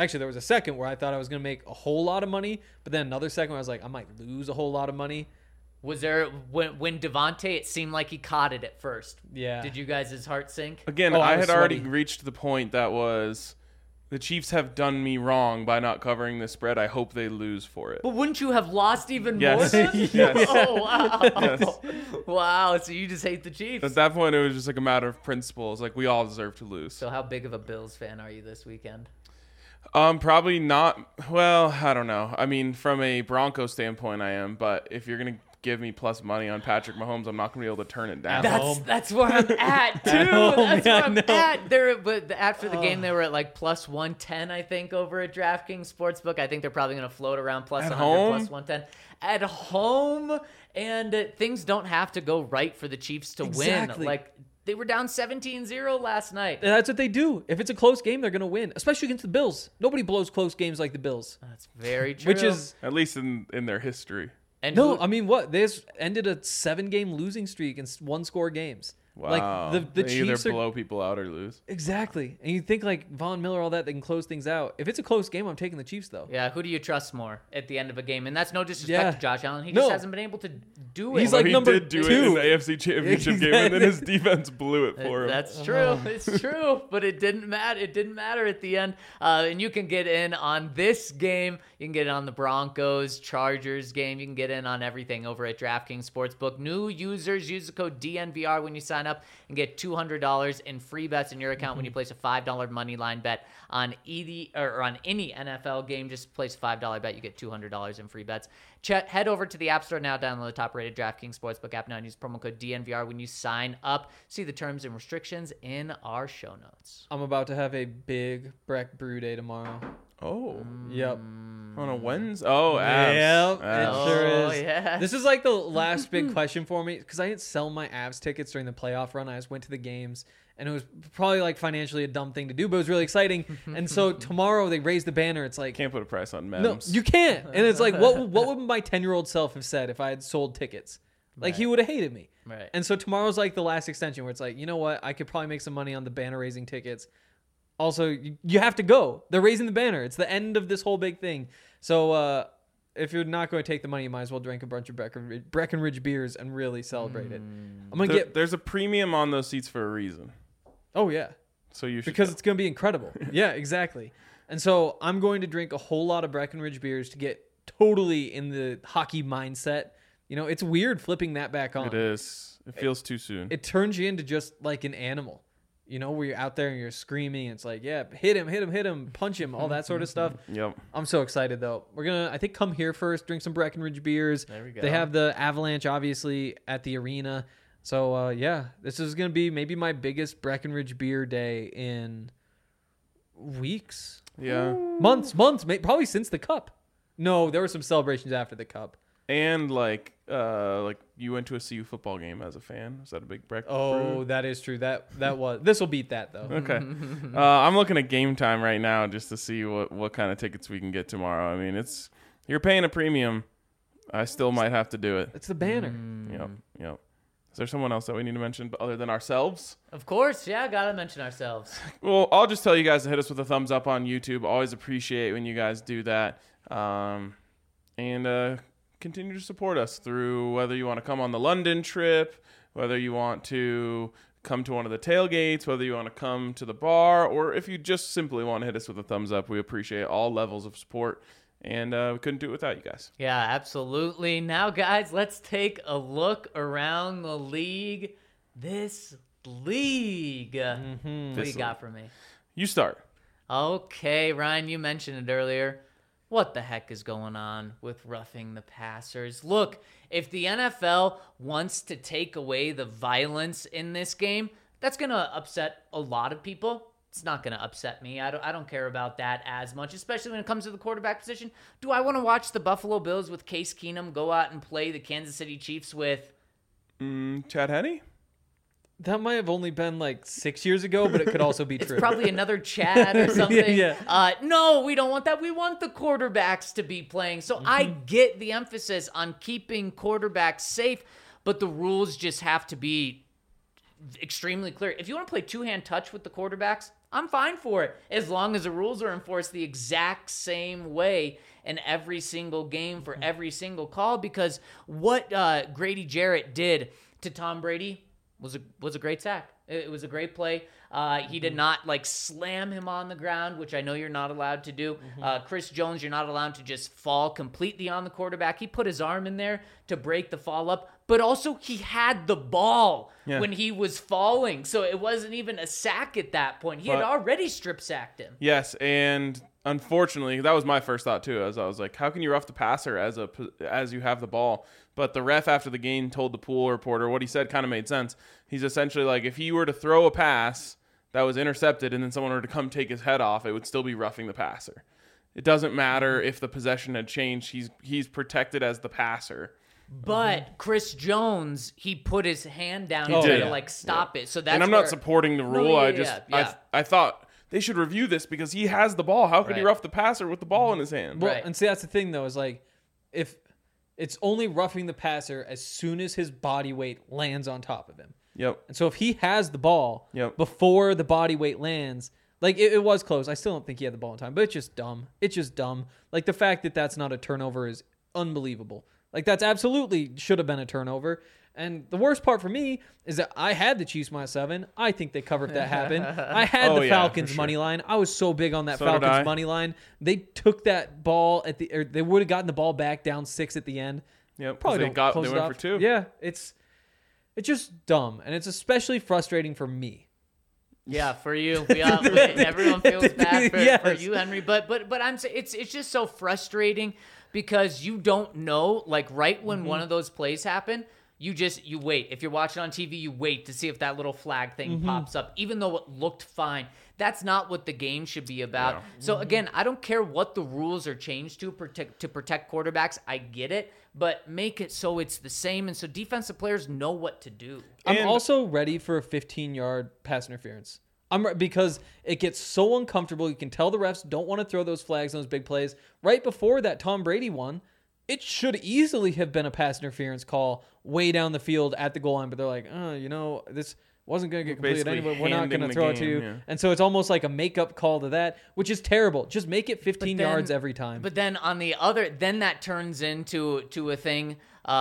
where I thought I was going to make a whole lot of money, but then another second where I was like, I might lose a whole lot of money. Was there when Devontae? It seemed like he caught it at first. Yeah. Did you guys' heart sink? Again, Oh, I I was had already sweaty. reached the point that was the Chiefs have done me wrong by not covering the spread. I hope they lose for it. But wouldn't you have lost even Yes. more? Yes. Oh wow! Yes. Wow. So you just hate the Chiefs. At that point, it was just like a matter of principles. Like, we all deserve to lose. So how big of a Bills fan are you this weekend? Probably not. Well, I don't know. I mean, from a Broncos standpoint, I am. But if you're gonna give me plus money on Patrick Mahomes, I'm not gonna be able to turn it down. That's where I'm at too. home, That's where yeah, I'm no. at. But after the game, they were at like plus 110, I think, over at DraftKings Sportsbook. I think they're probably going to float around plus At 100, home? plus 110 at home. And things don't have to go right for the Chiefs to Exactly. win. Like they were down 17-0 last night. And that's what they do. If it's a close game, they're going to win, especially against the Bills. Nobody blows close games like the Bills. That's very true. Which is At least in their history. and no, who- I mean what? They just ended a 7-game losing streak in 1-score games. Wow. Like the they either Chiefs are blow people out or lose. exactly. And you think like Von Miller, all that, they can close things out. If it's a close game, I'm taking the Chiefs though. yeah, who do you trust more at the end of a game? And that's no disrespect Yeah. to Josh Allen. He No. just hasn't been able to do it. He's Well, like he number did do it 2. in the AFC Championship game, and then his defense blew it for him. That's true. It's true, but it didn't matter. It didn't matter at the end. And you can get in on this game. You can get in on the Broncos Chargers game. You can get in on everything over at DraftKings Sportsbook. New users use the code DNVR when you sign up and get $200 in free bets in your account when you place a $5 money line bet on any NFL game. Just place a $5 bet, you get $200 in free bets. Head over to the App Store now, download the top-rated DraftKings Sportsbook app now, and use promo code DNVR when you sign up. See the terms and restrictions in our show notes. I'm about to have a big Breck Brew Day tomorrow. Oh, Yep. on a Wednesday. Oh, abs. Yep, Abs. it sure Oh, is. yeah. This is like the last big question for me because I didn't sell my Avs tickets during the playoff run. I just went to the games, and it was probably like financially a dumb thing to do, but it was really exciting. And so tomorrow they raise the banner. It's like Can't put a price on no, Mems. you can't. And it's like what would my 10-year-old self have said if I had sold tickets? Like he would have hated me. Right. And so tomorrow's like the last extension where it's like, you know what? I could probably make some money on the banner raising tickets. Also, you have to go. They're raising the banner. It's the end of this whole big thing. So if you're not going to take the money, you might as well drink a bunch of Breckenridge beers and really celebrate it. I'm going to get... There's a premium on those seats for a reason. Oh, yeah. So you should Because go. it's going to be incredible. Yeah, exactly. And so I'm going to drink a whole lot of Breckenridge beers to get totally in the hockey mindset. You know, it's weird flipping that back on. It is. It feels too soon. It turns you into just like an animal. You know, where you're out there and you're screaming. It's like, yeah, hit him, punch him, all that sort of stuff. Yep. I'm so excited, though. We're going to, I think, come here first, drink some Breckenridge beers. There we go. They have the Avalanche, obviously, at the arena. So, yeah, this is going to be maybe my biggest Breckenridge beer day in weeks. Yeah. Months, probably since the Cup. No, there were some celebrations after the Cup. And like you went to a CU football game as a fan. Was that a big breakfast? Oh, that is true. That was. This will beat that, though. Okay. I'm looking at Game Time right now just to see what kind of tickets we can get tomorrow. I mean, you're paying a premium. I still might have to do it. It's the banner. Yep. Is there someone else that we need to mention other than ourselves? Of course, yeah, gotta mention ourselves. Well, I'll just tell you guys to hit us with a thumbs up on YouTube. Always appreciate when you guys do that. And continue to support us through whether you want to come on the London trip, whether you want to come to one of the tailgates, whether you want to come to the bar, or if you just simply want to hit us with a thumbs up. We appreciate all levels of support, and we couldn't do it without you guys. Yeah, absolutely. Now, guys, let's take a look around the league. This league. What do you got for me? You start. Okay, Ryan, you mentioned it earlier. What the heck is going on with roughing the passers? Look, if the NFL wants to take away the violence in this game, That's going to upset a lot of people. It's not going to upset me. I don't care about that as much, especially when it comes to the quarterback position. Do I want to watch the Buffalo Bills with Case Keenum go out and play the Kansas City Chiefs with Chad Henne? That might have only been like 6 years ago, but it could also be true. It's probably another Chad or something. Yeah. No, we don't want that. We want the quarterbacks to be playing. So I get the emphasis on keeping quarterbacks safe, but the rules just have to be extremely clear. If you want to play two-hand touch with the quarterbacks, I'm fine for it, as long as the rules are enforced the exact same way in every single game for every single call, because what Grady Jarrett did to Tom Brady was a great sack. It was a great play. He did not like slam him on the ground, which I know you're not allowed to do. Chris Jones, you're not allowed to just fall completely on the quarterback. He put his arm in there to break the fall up, but also he had the ball when he was falling. So it wasn't even a sack at that point. He had already strip sacked him. Yes, and unfortunately, that was my first thought too. As I was like, how can you rough the passer as you have the ball? But the ref after the game told the pool reporter what he said kind of made sense. He's essentially like, if he were to throw a pass that was intercepted and then someone were to come take his head off, it would still be roughing the passer. It doesn't matter if the possession had changed. He's protected as the passer. But Chris Jones, he put his hand down and tried to like stop it. So that's and I'm not supporting the rule. I thought they should review this because he has the ball. How could he rough the passer with the ball in his hand? Well, and see, that's the thing though, is like, if it's only roughing the passer as soon as his body weight lands on top of him. Yep. And so if he has the ball before the body weight lands, like it was close. I still don't think he had the ball in time, but it's just dumb. It's just dumb. Like the fact that that's not a turnover is unbelievable. Like that's absolutely should have been a turnover. And the worst part for me is that I had the Chiefs -7. I think they covered if that happened. I had the Falcons money line. I was so big on that Falcons money line. They took that ball they would have gotten the ball back down 6 at the end. Yep. Probably they went for 2. Yeah, it's just dumb, and it's especially frustrating for me. Yeah, for you. Everyone feels bad for you, Henry. But I'm saying it's just so frustrating because you don't know, like right when one of those plays happen, you wait. If you're watching on TV, you wait to see if that little flag thing pops up, even though it looked fine. That's not what the game should be about. Yeah. So again, I don't care what the rules are changed to protect quarterbacks. I get it, but make it so it's the same, and so defensive players know what to do. I'm also ready for a 15-yard pass interference. Because it gets so uncomfortable. You can tell the refs don't want to throw those flags on those big plays. Right before that Tom Brady one, it should easily have been a pass interference call way down the field at the goal line, but they're like, this wasn't going to get completed anyway. We're not going to throw it to you. Yeah. And so it's almost like a makeup call to that, which is terrible. Just make it 15 yards every time. But then on the other, then that turns into a thing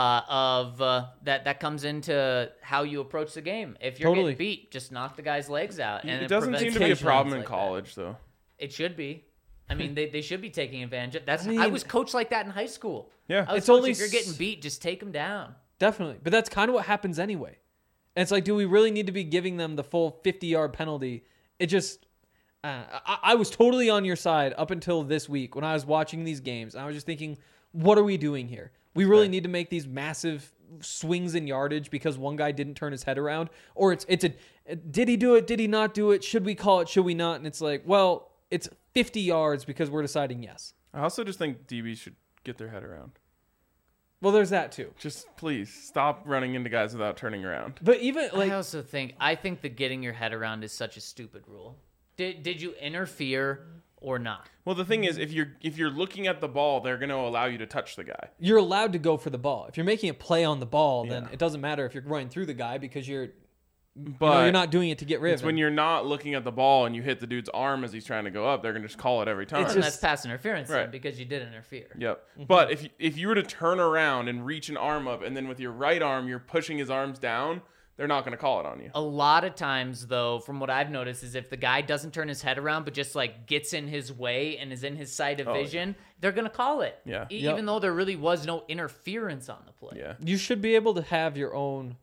that comes into how you approach the game. If you're getting beat, just knock the guy's legs out. And it doesn't seem to be a problem in college, though. It should be. I mean, they should be taking advantage of that. I was coached like that in high school. Yeah. It's only if you're getting beat, just take them down. Definitely. But that's kind of what happens anyway. And it's like, do we really need to be giving them the full 50-yard penalty? It just, I was totally on your side up until this week when I was watching these games. I was just thinking, what are we doing here? We really need to make these massive swings in yardage because one guy didn't turn his head around, or it's did he do it? Did he not do it? Should we call it? Should we not? And it's like, well, it's 50 yards because we're deciding yes. I also just think DBs should get their head around. Well, there's that too. Just please stop running into guys without turning around. But even like, I think the getting your head around is such a stupid rule. Did you interfere or not? Well, the thing is, if you're looking at the ball, they're going to allow you to touch the guy. You're allowed to go for the ball. If you're making a play on the ball, then it doesn't matter if you're running through the guy because you're not doing it to get rid of him. It's when you're not looking at the ball and you hit the dude's arm as he's trying to go up, they're going to just call it every time. That's pass interference then, because you did interfere. Yep. Mm-hmm. But if you were to turn around and reach an arm up and then with your right arm you're pushing his arms down, they're not going to call it on you. A lot of times, though, from what I've noticed, is if the guy doesn't turn his head around but just like gets in his way and is in his side of vision, they're going to call it. Yeah. Even though there really was no interference on the play. Yeah. You should be able to have your own.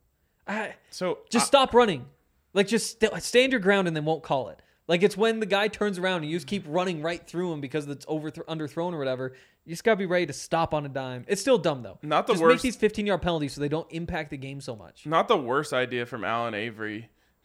Stop running. Like, just stand your ground and then won't call it. Like, it's when the guy turns around and you just keep running right through him because it's underthrown or whatever. You just got to be ready to stop on a dime. It's still dumb, though. Not the just worst. Make these 15-yard penalties so they don't impact the game so much. Not the worst idea from Alan Avery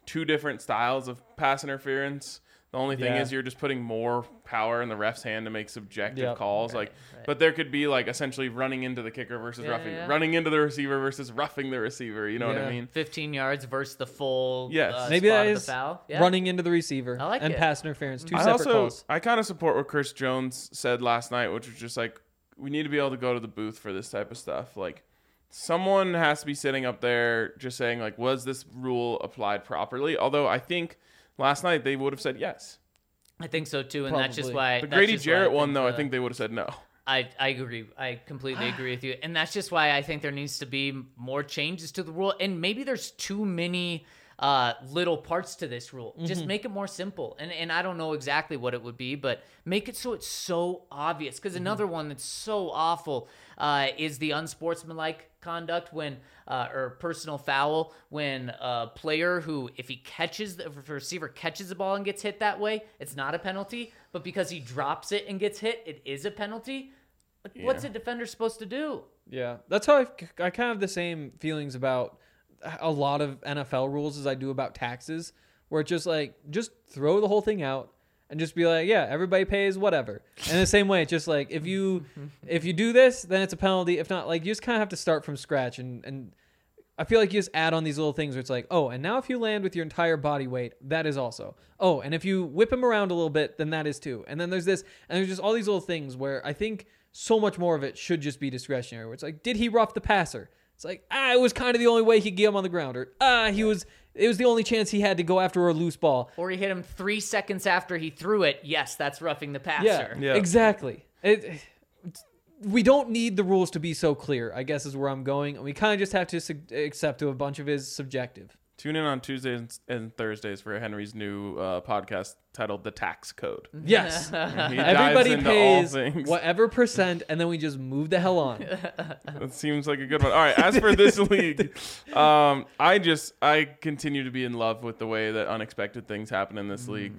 two different styles of pass interference. The only thing Yeah. is you're just putting more power in the ref's hand to make subjective Yep. calls. Right. But there could be like essentially running into the kicker versus running into the receiver versus roughing the receiver. You know what I Yeah. mean? 15 yards versus the full Yes. Maybe spot that of is the foul. Yeah. running into the receiver I like and it. pass interference. Two I separate calls. I kind of support what Chris Jones said last night, which was just like, we need to be able to go to the booth for this type of stuff. Like, someone has to be sitting up there just saying, like, was this rule applied properly? Although I think last night they would have said yes. I think so too, and that's just Probably. why The that's Grady just why Jarrett one, though, I the- think they would have said no. I agree. I completely agree with you. And that's just why I think there needs to be more changes to the rule. And maybe there's too many little parts to this rule. Just make it more simple. And I don't know exactly what it would be, but make it so it's so obvious. Because another one that's so awful is the unsportsmanlike conduct when or personal foul when a player who, if a receiver catches the ball and gets hit that way, it's not a penalty. But because he drops it and gets hit, it is a penalty. Like, what's a defender supposed to do? Yeah, that's how I kind of have the same feelings about a lot of NFL rules as I do about taxes, where it's just like, just throw the whole thing out and just be like, yeah, everybody pays whatever. And the same way, it's just like, if you do this, then it's a penalty. If not, like, you just kind of have to start from scratch. And I feel like you just add on these little things where it's like, oh, and now if you land with your entire body weight, that is also. Oh, and if you whip him around a little bit, then that is too. And then there's this, and there's just all these little things where I think so much more of it should just be discretionary, where it's like, did he rough the passer? It's like, it was kind of the only way he could get him on the ground. Or, it was the only chance he had to go after a loose ball. Or he hit him 3 seconds after he threw it. Yes, that's roughing the passer. Yeah. Exactly. We don't need the rules to be so clear, I guess is where I'm going. And we kind of just have to accept a bunch of it is subjective. Tune in on Tuesdays and Thursdays for Henry's new podcast titled The Tax Code. Yes. He dives Everybody into all pays things. whatever percent, and then we just move the hell on. That seems like a good one. All right, as for this league, I continue to be in love with the way that unexpected things happen in this league.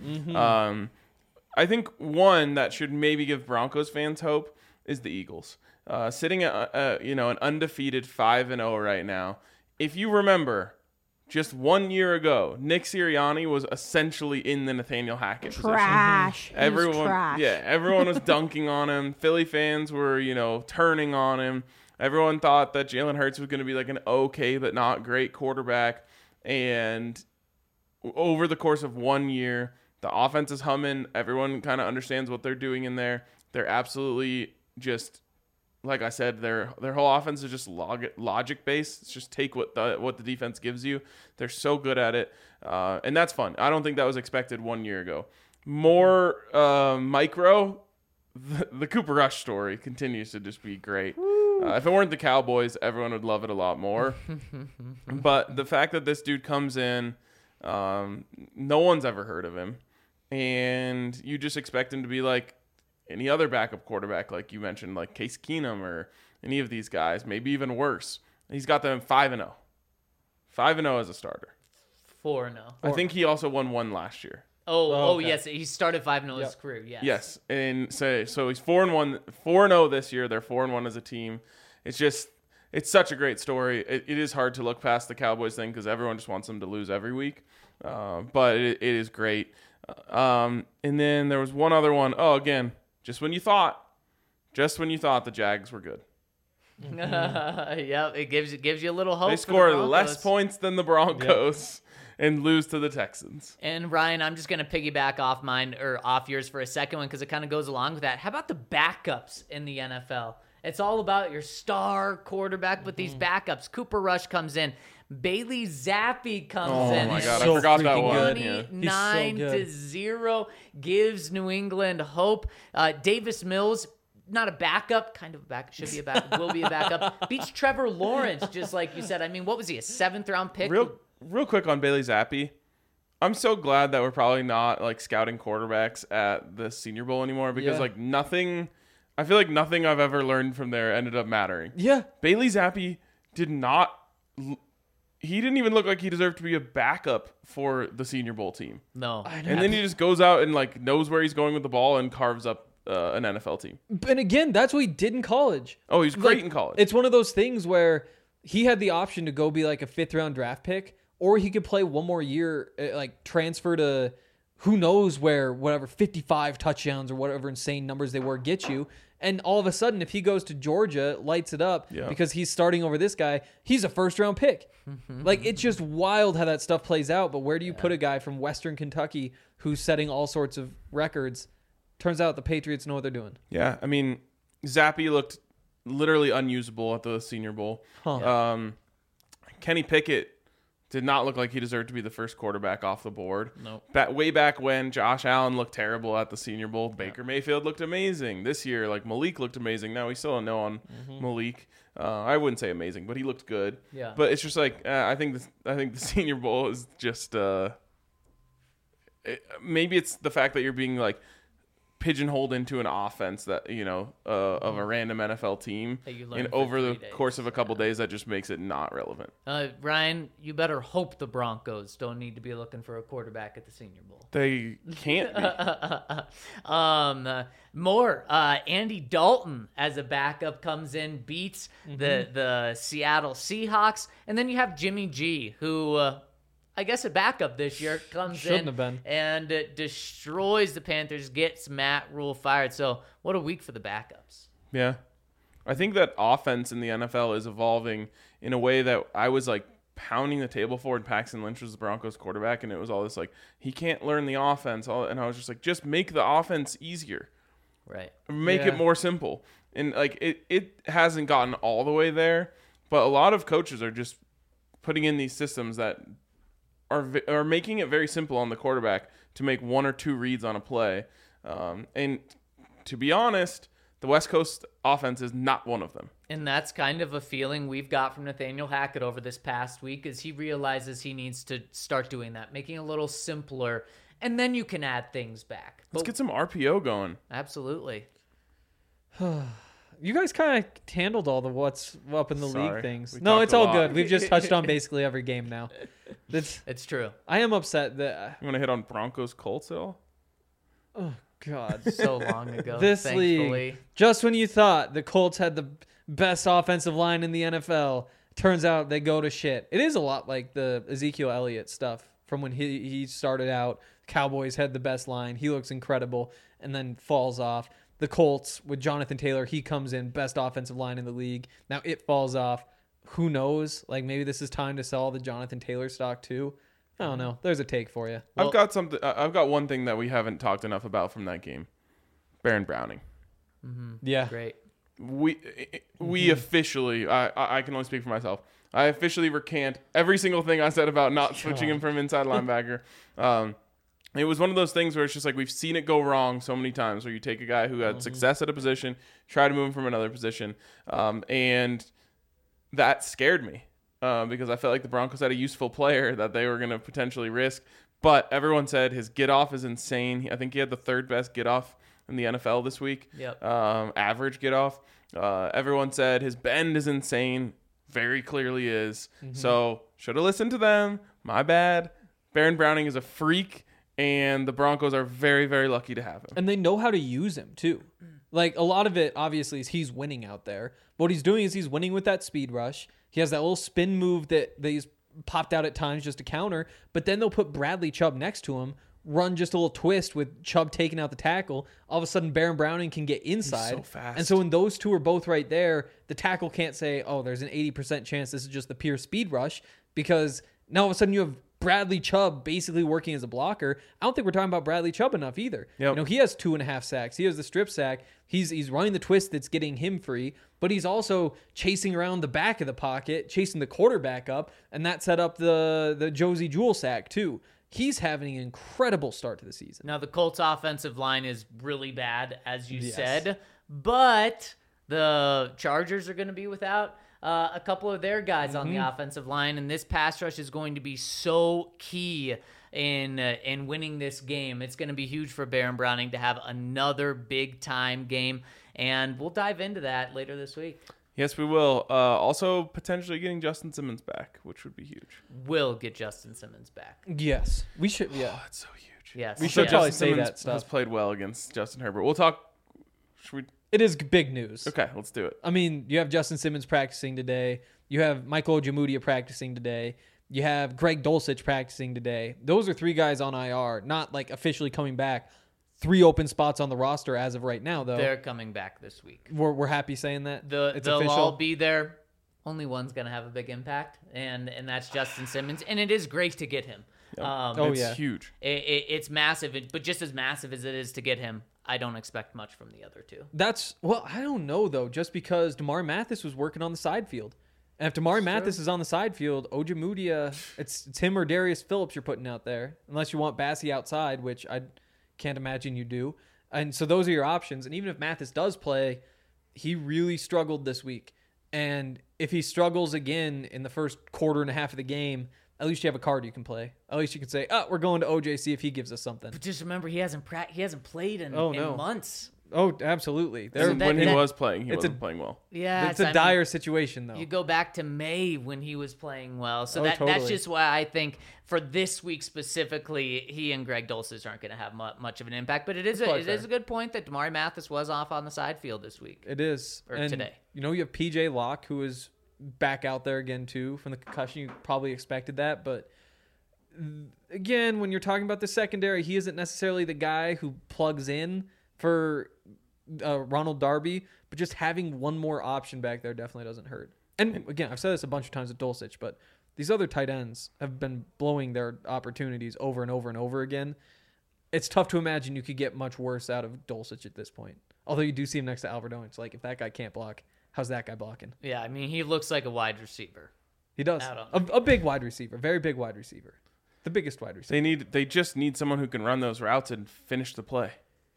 I think one that should maybe give Broncos fans hope is the Eagles. Sitting at an undefeated 5-0 right now. If you remember, just 1 year ago, Nick Sirianni was essentially in the Nathaniel Hackett position. Trash. He was Everyone, trash. everyone was dunking on him. Philly fans were, turning on him. Everyone thought that Jalen Hurts was going to be like an okay but not great quarterback. And over the course of 1 year, the offense is humming. Everyone kind of understands what they're doing in there. They're absolutely just, like I said, their whole offense is just logic based. It's just take what the defense gives you. They're so good at it, and that's fun. I don't think that was expected 1 year ago. More micro, the Cooper Rush story continues to just be great. If it weren't the Cowboys, everyone would love it a lot more. But the fact that this dude comes in, no one's ever heard of him, and you just expect him to be like any other backup quarterback, like you mentioned, like Case Keenum or any of these guys, maybe even worse. He's got them 5-0. 5-0 as a starter. 4-0. I think he also won one last year. okay. Yes. He started 5-0 his career. Yes. Yes. And so he's 4-0 this year. They're 4-1 as a team. It's such a great story. It is hard to look past the Cowboys thing because everyone just wants them to lose every week. But it is great. And then there was one other one. Oh, again, just when you thought the Jags were good. Yeah, it gives you a little hope. They for the score less Broncos. points than the Broncos and lose to the Texans. And Ryan, I'm just gonna piggyback off yours for a second one because it kind of goes along with that. How about the backups in the NFL? It's all about your star quarterback, but these backups. Cooper Rush comes in. Bailey Zappi comes in. Oh my and God, I so forgot that freaking one. good. Yeah. 29-0 gives New England hope. Davis Mills, not a backup, kind of a backup, should be a backup, will be a backup. Beats Trevor Lawrence, just like you said. I mean, what was he, a 7th-round pick? Real quick on Bailey Zappi. I'm so glad that we're probably not like scouting quarterbacks at the Senior Bowl anymore because Yeah. I feel like nothing I've ever learned from there ended up mattering. Yeah. Bailey Zappi he didn't even look like he deserved to be a backup for the Senior Bowl team. No. And then he just goes out and like knows where he's going with the ball and carves up an NFL team. And again, that's what he did in college. Oh, he's great Like, in college. It's one of those things where he had the option to go be like a 5th-round draft pick, or he could play one more year, like transfer to who knows where, whatever 55 touchdowns or whatever insane numbers they were get you. And all of a sudden, if he goes to Georgia, lights it up because he's starting over this guy, he's a first-round pick. Like, it's just wild how that stuff plays out. But where do you put a guy from Western Kentucky who's setting all sorts of records? Turns out the Patriots know what they're doing. Yeah, I mean, Zappe looked literally unusable at the Senior Bowl. Kenny Pickett did not look like he deserved to be the first quarterback off the board. Nope. Way back when Josh Allen looked terrible at the Senior Bowl, Baker Mayfield looked amazing. This year, like, Malik looked amazing. Now we still don't know on Malik. I wouldn't say amazing, but he looked good. Yeah. But it's just like I think the Senior Bowl is just maybe it's the fact that you're being like pigeonholed into an offense that of a random NFL team, and over the course of a couple days, that just makes it not relevant. Ryan, you better hope the Broncos don't need to be looking for a quarterback at the Senior Bowl. They can't be. Andy Dalton as a backup comes in, beats the Seattle Seahawks, and then you have Jimmy G, who I guess a backup this year, comes Shouldn't have been. and destroys the Panthers, gets Matt Rule fired. So what a week for the backups. Yeah. I think that offense in the NFL is evolving in a way that I was like pounding the table for, and Paxton Lynch was the Broncos quarterback, and it was all this like, he can't learn the offense. And I was just like, just make the offense easier. Right. Make it more simple. And like it hasn't gotten all the way there, but a lot of coaches are just putting in these systems that are making it very simple on the quarterback to make one or two reads on a play. And to be honest, the West Coast offense is not one of them. And that's kind of a feeling we've got from Nathaniel Hackett over this past week, as he realizes he needs to start doing that, making it a little simpler, and then you can add things back. Let's get some RPO going. Absolutely. You guys kind of handled all the what's up in the league things. We No, talked it's a all lot. good. We've just touched on basically every game now. It's true. I am upset that. You want to hit on Broncos Colts at all? Oh God. So long ago, This thankfully. league, just when you thought the Colts had the best offensive line in the NFL, turns out they go to shit. It is a lot like the Ezekiel Elliott stuff from when he started out. Cowboys had the best line. He looks incredible and then falls off. The Colts with Jonathan Taylor, he comes in, best offensive line in the league. Now it falls off. Who knows? Like, maybe this is time to sell the Jonathan Taylor stock too. I don't know. There's a take for you. I've got one thing that we haven't talked enough about from that game. Baron Browning. Yeah. Great. We officially, I can only speak for myself. I officially recant every single thing I said about not switching him from inside linebacker. It was one of those things where it's just like, we've seen it go wrong so many times, where you take a guy who had success at a position, try to move him from another position. And that scared me because I felt like the Broncos had a useful player that they were going to potentially risk. But everyone said his get off is insane. I think he had the third best get off in the NFL this week. Yep. Average get off. Everyone said his bend is insane. Very clearly is. So should have listened to them. My bad. Baron Browning is a freak, and the Broncos are very, very lucky to have him. And they know how to use him too. Like, a lot of it obviously is he's winning out there. What he's doing is he's winning with that speed rush. He has that little spin move that he's popped out at times just to counter, but then they'll put Bradley Chubb next to him, run just a little twist with Chubb taking out the tackle. All of a sudden, Baron Browning can get inside. He's so fast. And so when those two are both right there, the tackle can't say, oh, there's an 80% chance this is just the pure speed rush, because now all of a sudden you have Bradley Chubb basically working as a blocker. I don't think we're talking about Bradley Chubb enough either. Yep. He has 2.5 sacks. He has the strip sack. He's running the twist that's getting him free, but he's also chasing around the back of the pocket, chasing the quarterback up, and that set up the Josie Jewell sack too. He's having an incredible start to the season. Now, the Colts offensive line is really bad, as you said, but the Chargers are going to be without a couple of their guys on the offensive line, and this pass rush is going to be so key in winning this game. It's going to be huge for Baron Browning to have another big-time game, and we'll dive into that later this week. Yes, we will. Also, potentially getting Justin Simmons back, which would be huge. We'll get Justin Simmons back. Yes. We should, yeah. Oh, that's so huge. Yes. We should yes. probably Justin say Simmons that stuff. has played well against Justin Herbert. We'll talk. Should we? It is big news. Okay, let's do it. I mean, you have Justin Simmons practicing today. You have Michael Ojemudia practicing today. You have Greg Dulcich practicing today. Those are 3 guys on IR, not like officially coming back. 3 open spots on the roster as of right now, though. They're coming back this week. We're happy saying that. It's They'll official. all be there. Only one's going to have a big impact, and that's Justin Simmons. And it is great to get him. It's huge. It's massive, but just as massive as it is to get him, I don't expect much from the other 2. I don't know, though, just because Damari Mathis was working on the side field. And if Damari Mathis is on the side field, Ojemudia, it's him or Darius Phillips you're putting out there, unless you want Bassie outside, which I can't imagine you do. And so those are your options. And even if Mathis does play, he really struggled this week. And if he struggles again in the first quarter and a half of the game, at least you have a card you can play. At least you can say, we're going to OJ, see if he gives us something. But just remember, he hasn't played in months. Oh, absolutely. When he was playing, he wasn't playing well. Yeah, it's a dire situation, though. You go back to May when he was playing well. So that's totally. just why I think for this week specifically, he and Greg Dulcich aren't going to have much of an impact. But it is a good point that Damari Mathis was off on the side field this week. It is. Or today. You know, you have PJ Locke, who is back out there again, too, from the concussion. You probably expected that. But again, when you're talking about the secondary, he isn't necessarily the guy who plugs in for Ronald Darby, but just having one more option back there definitely doesn't hurt. And again, I've said this a bunch of times with Dulcich, but these other tight ends have been blowing their opportunities over and over and over again. It's tough to imagine you could get much worse out of Dulcich at this point. Although you do see him next to Alvarado. It's like, if that guy can't block, how's that guy blocking? Yeah, I mean, he looks like a wide receiver. He does. A big wide receiver. Very big wide receiver. The biggest wide receiver. They just need someone who can run those routes and finish the play.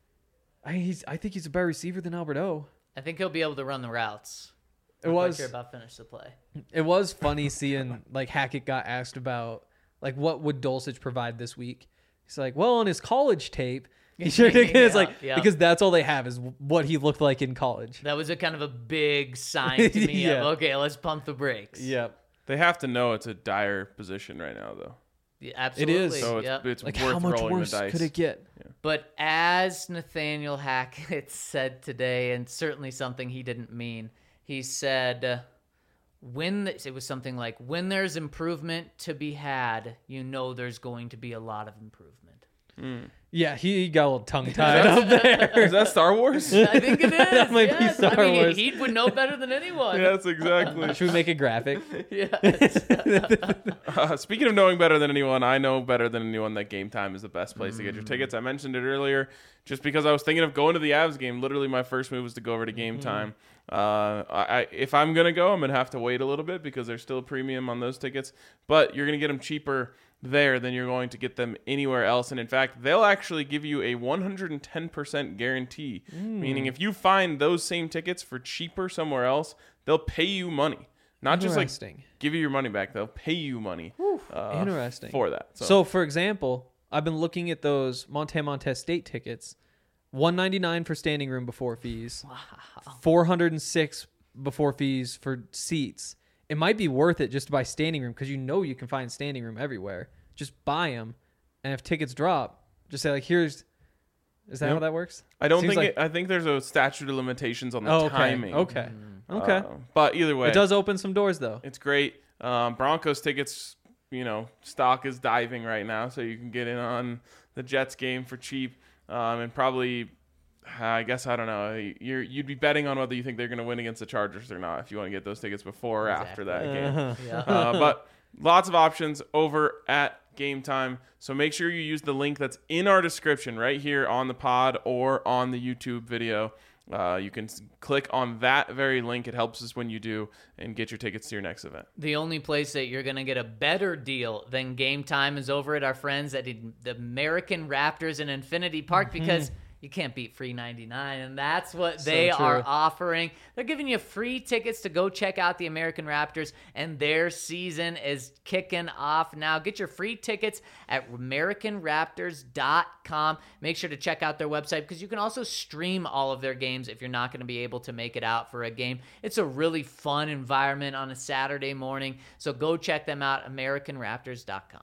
I think he's a better receiver than Alberto. I think he'll be able to run the routes. I'm not sure about finish the play. It was funny seeing like Hackett got asked about like what would Dulcich provide this week. He's like, well, on his college tape, he sure did. It's like because that's all they have is what he looked like in college. That was a kind of a big sign to me of okay, let's pump the brakes. Yep. They have to know it's a dire position right now, though. Yeah, absolutely. It is. So it's Like worth how much rolling worse the dice. could it get? But as Nathaniel Hackett said today, and certainly something he didn't mean, he said, it was something like, when there's improvement to be had, you know there's going to be a lot of improvement. Yeah, he got a little tongue-tied up there. Is that Star Wars? I think it is. That might be Star Wars. He would know better than anyone. Yes, exactly. Should we make a graphic? Speaking of knowing better than anyone, I know better than anyone that Game Time is the best place to get your tickets. I mentioned it earlier just because I was thinking of going to the Avs game. Literally, my first move was to go over to Game Time. If I'm going to go, I'm going to have to wait a little bit because there's still a premium on those tickets. But you're going to get them cheaper there than you're going to get them anywhere else. And in fact, they'll actually give you a 110% guarantee, meaning if you find those same tickets for cheaper somewhere else, they'll pay you money. Not just like give you your money back. They'll pay you money Interesting. for that. So, for example, I've been looking at those Montez State tickets. $199 for standing room before fees. Wow. $406 before fees for seats. It might be worth it just to buy standing room because you know you can find standing room everywhere. Just buy them, and if tickets drop, just say like, "Is that how that works?" I don't think. I think there's a statute of limitations on the timing. Okay. But either way, it does open some doors though. It's great. Broncos tickets, stock is diving right now, so you can get in on the Jets game for cheap, and probably. I guess I don't know. You'd be betting on whether you think they're going to win against the Chargers or not if you want to get those tickets before or after that game. But lots of options over at Game Time. So make sure you use the link that's in our description right here on the pod or on the YouTube video. You can click on that very link. It helps us when you do and get your tickets to your next event. The only place that you're going to get a better deal than Game Time is over at our friends at the American Raptors in Infinity Park because you can't beat free 99, and that's what they are offering. They're giving you free tickets to go check out the American Raptors, and their season is kicking off now. Get your free tickets at AmericanRaptors.com. Make sure to check out their website because you can also stream all of their games if you're not going to be able to make it out for a game. It's a really fun environment on a Saturday morning, so go check them out, AmericanRaptors.com.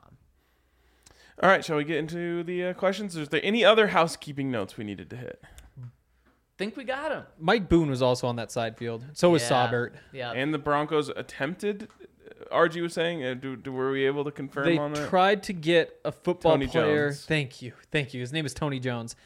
All right, shall we get into the questions? Is there any other housekeeping notes we needed to hit? Think we got him. Mike Boone was also on that side field. So was Saubert. Yeah. And the Broncos attempted RG was saying? Were we able to confirm They on that? tried to get a football Tony player. Jones. Thank you. His name is Tony Jones.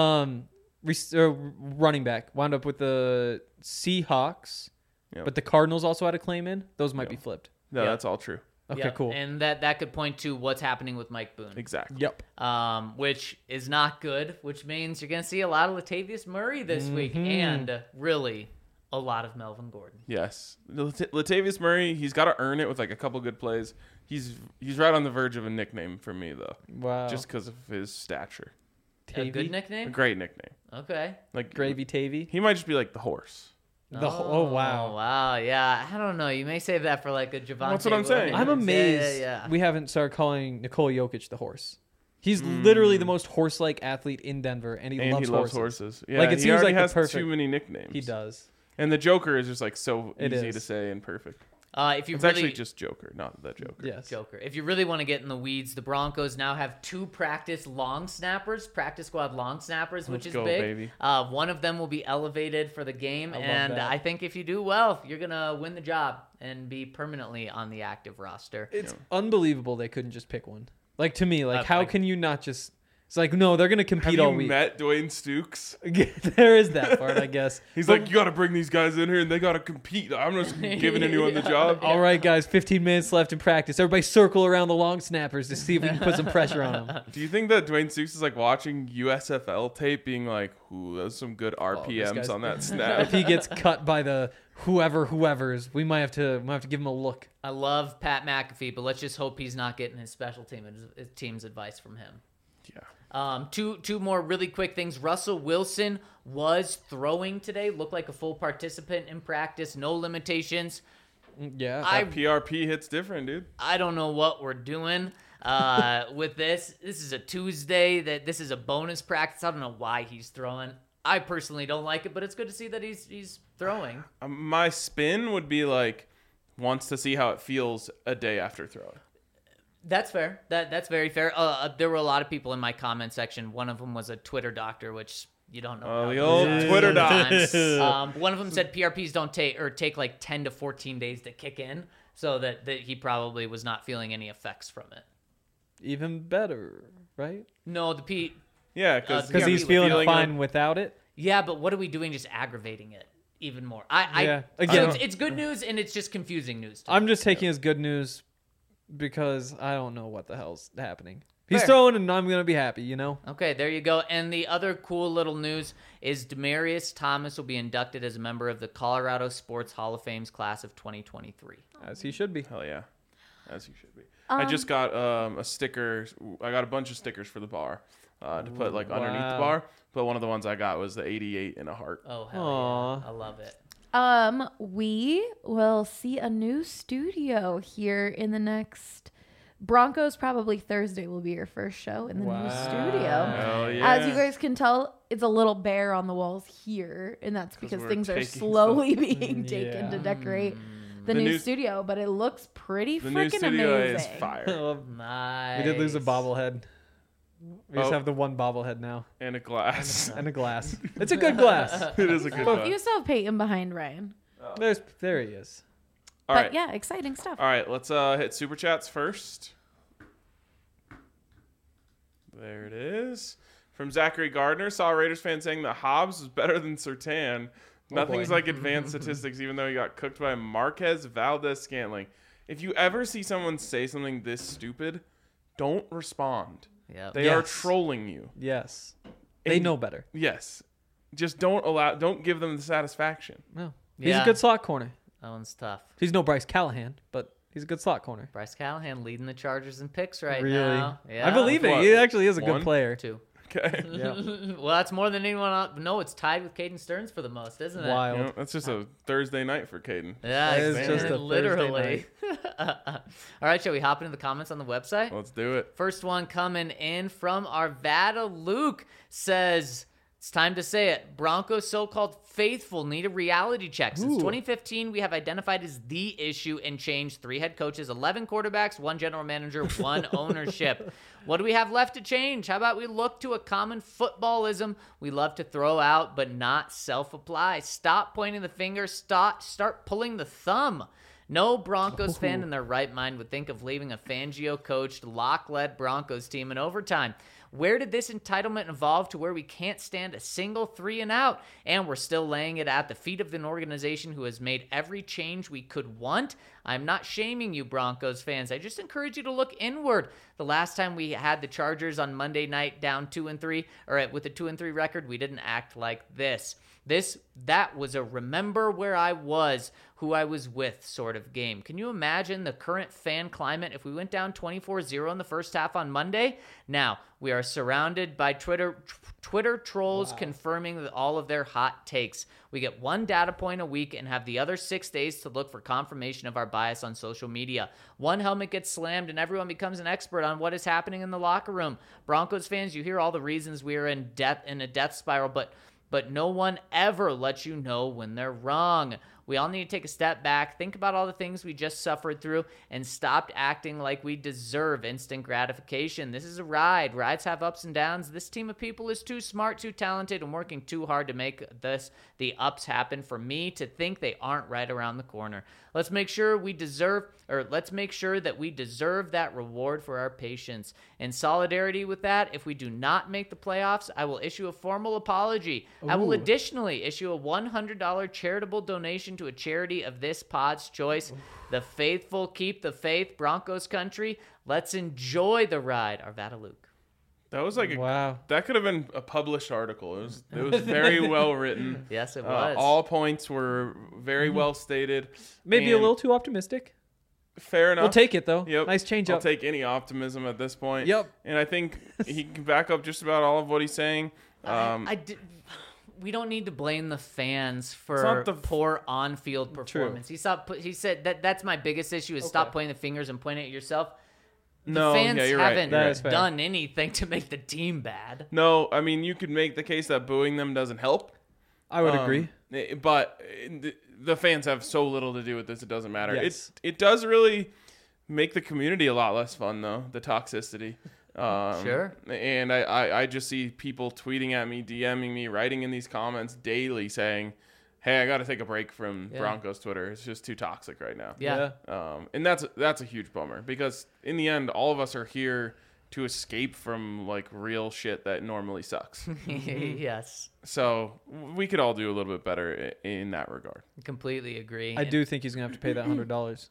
Running back wound up with the Seahawks, Yep. but the Cardinals also had a claim in. Those might be Yep. flipped. No, Yeah. that's all true. Okay, Yep, cool. And that could point to what's happening with Mike Boone. Exactly. Yep. Which is not good, which means you're going to see a lot of Latavius Murray this week and really a lot of Melvin Gordon. Yes. Latavius Murray, he's got to earn it with like a couple good plays. He's right on the verge of a nickname for me though, Wow. just because of his stature. A Tavy? good A nickname? great nickname. Okay. Like Gravy Tavy. He might just be like the horse. Oh wow. Wow, yeah. I don't know. You may save that for like a Javante. That's what I'm saying. I'm Williams. amazed Yeah. we haven't started calling Nikola Jokic the horse. He's literally the most horse-like athlete in Denver, and he And loves he loves horses. horses. Yeah, Like, it he seems already like the has perfect- too many nicknames. He does. And the Joker is just like so It easy is. to say and perfect. If you It's really actually just Joker, not the Joker. Yes. Joker. If you really want to get in the weeds, the Broncos now have 2 practice squad long snappers, which Let's is go, big. baby. One of them will be elevated for the game, I love and that. I think if you do well, you're gonna win the job and be permanently on the active roster. It's unbelievable they couldn't just pick one. Like, to me, like, how like- can you not just... It's like, no, they're going to Have compete you all week. met Dwayne Stukes? There is that part, I guess. He's But- like, you got to bring these guys in here and they got to compete. I'm just giving anyone the job. all right, guys, 15 minutes left in practice. Everybody circle around the long snappers to see if we can put some pressure on them. Do you think that Dwayne Stukes is like watching USFL tape, being like, "Ooh, that's some good Oh, this RPMs guy's- on that If snap"? he gets cut by the whoever's, we might have to give him a look. I love Pat McAfee, but let's just hope he's not getting his special team's advice from him. Yeah. Two more really quick things. Russell Wilson was throwing today, looked like a full participant in practice, no limitations. Yeah. That PRP hits different, dude. I don't know what we're doing with this. This is a Tuesday. This is a bonus practice. I don't know why he's throwing. I personally don't like it, but it's good to see that he's throwing. My spin would be like, wants to see how it feels a day after throwing. That's fair. That's very fair. There were a lot of people in my comment section. One of them was a Twitter doctor, which you don't know. Oh, how the those old are Twitter sometimes. One of them said PRPs don't take like 10 to 14 days to kick in, so that he probably was not feeling any effects from it. Even better, right? No, the P. Yeah, because Because he's feeling fine without it. Yeah, but what are we doing? Just aggravating it even more. Yeah. So Again, it's good news and it's just confusing news. To me. I'm just taking as good news because I don't know what the hell's happening. He's Fair. throwing and I'm going to be happy, you know? Okay, there you go. And the other cool little news is Demaryius Thomas will be inducted as a member of the Colorado Sports Hall of Fame's class of 2023. As he should be. Hell yeah, as you should be. I just got a sticker. I got a bunch of stickers for the bar to put like underneath the wow. bar. But one of the ones I got was the 88 in a heart. Oh, hell Aw. yeah. I love it. We will see a new studio here in the next. Broncos probably Thursday will be your first show in the new studio. Hell yeah. As you guys can tell, it's a little bare on the walls here, and that's because we're things are taking slowly being taken Yeah. to decorate the, The new new- studio. But it looks pretty The new freaking studio amazing. is fire. Nice. We did lose a bobblehead. We just Oh. have the one bobblehead now. And a glass. And a glass. It's a good glass. It is a good You one. still have Peyton behind Ryan. There he is. All But right. yeah, exciting stuff. All right, let's hit super chats first. There it is. From Zachary Gardner, saw a Raiders fan saying that Hobbs was better than Surtain. Nothing's boy. like advanced statistics, even though he got cooked by Marquez Valdez-Scantling. If you ever see someone say something this stupid, don't respond. Yep. They are Yes. trolling you. Yes. They And- know better. Yes. Just don't give them the satisfaction. No. He's Yeah. a good slot corner. That one's tough. He's no Bryce Callahan, but he's a good slot corner. Bryce Callahan leading the Chargers in picks right Really? now. Yeah. I believe it. What? He actually is a One? good player. 2. Okay. Yeah. Well, that's more than anyone else. No, it's tied with Caden Stearns for the most, isn't it? Wild. You know, that's just a Thursday night for Caden. Yeah, That is exactly. just a literally. All right, shall we hop into the comments on the website? Let's do it. First one coming in from Arvada Luke says, it's time to say it. Broncos so-called faithful need a reality check. Since Ooh. 2015, we have identified as the issue and changed 3 head coaches, 11 quarterbacks, 1 general manager, 1 ownership. What do we have left to change? How about we look to a common footballism we love to throw out but not self-apply? Stop pointing the finger. Start pulling the thumb. No Broncos fan in their right mind would think of leaving a Fangio-coached, lock-led Broncos team in overtime. Where did this entitlement evolve to where we can't stand a single 3-and-out, and we're still laying it at the feet of an organization who has made every change we could want? I'm not shaming you, Broncos fans. I just encourage you to look inward. The last time we had the Chargers on Monday night down 2-3, or with a 2-3 record, we didn't act like this. That was a remember where I was, who I was with sort of game. Can you imagine the current fan climate if we went down 24-0 in the first half on Monday? Now, we are surrounded by Twitter trolls confirming all of their hot takes. We get one data point a week and have the other 6 days to look for confirmation of our bias on social media. One helmet gets slammed and everyone becomes an expert on what is happening in the locker room. Broncos fans, you hear all the reasons we are in a death spiral, but no one ever lets you know when they're wrong. We all need to take a step back, think about all the things we just suffered through, and stop acting like we deserve instant gratification. This is a ride. Rides have ups and downs. This team of people is too smart, too talented, and working too hard to make the ups happen for me to think they aren't right around the corner. Let's make sure that we deserve that reward for our patience. In solidarity with that, if we do not make the playoffs, I will issue a formal apology. Ooh. I will additionally issue a $100 charitable donation to a charity of this pod's choice. Ooh. The faithful keep the faith, Broncos country. Let's enjoy the ride. Arvada Luke. That was like wow. That could have been a published article. It was very well written. Yes, it was. All points were very well stated. Maybe a little too optimistic. Fair enough. We'll take it though. Yep. Nice change up. I'll take any optimism at this point. Yep. And I think he can back up just about all of what he's saying. We don't need to blame the fans for poor on-field performance. True. He said that's my biggest issue is stop pointing the fingers and pointing at yourself. No, the fans you're haven't right. done anything to make the team bad. No, I mean, you could make the case that booing them doesn't help. I would agree. But the fans have so little to do with this, it doesn't matter. Yes. It does really make the community a lot less fun, though, the toxicity. Sure. And I just see people tweeting at me, DMing me, writing in these comments daily saying, hey, I got to take a break from Broncos Twitter. It's just too toxic right now. Yeah. And that's a huge bummer because in the end, all of us are here to escape from like real shit that normally sucks. Yes. So we could all do a little bit better in that regard. Completely agree. I do think he's going to have to pay that $100.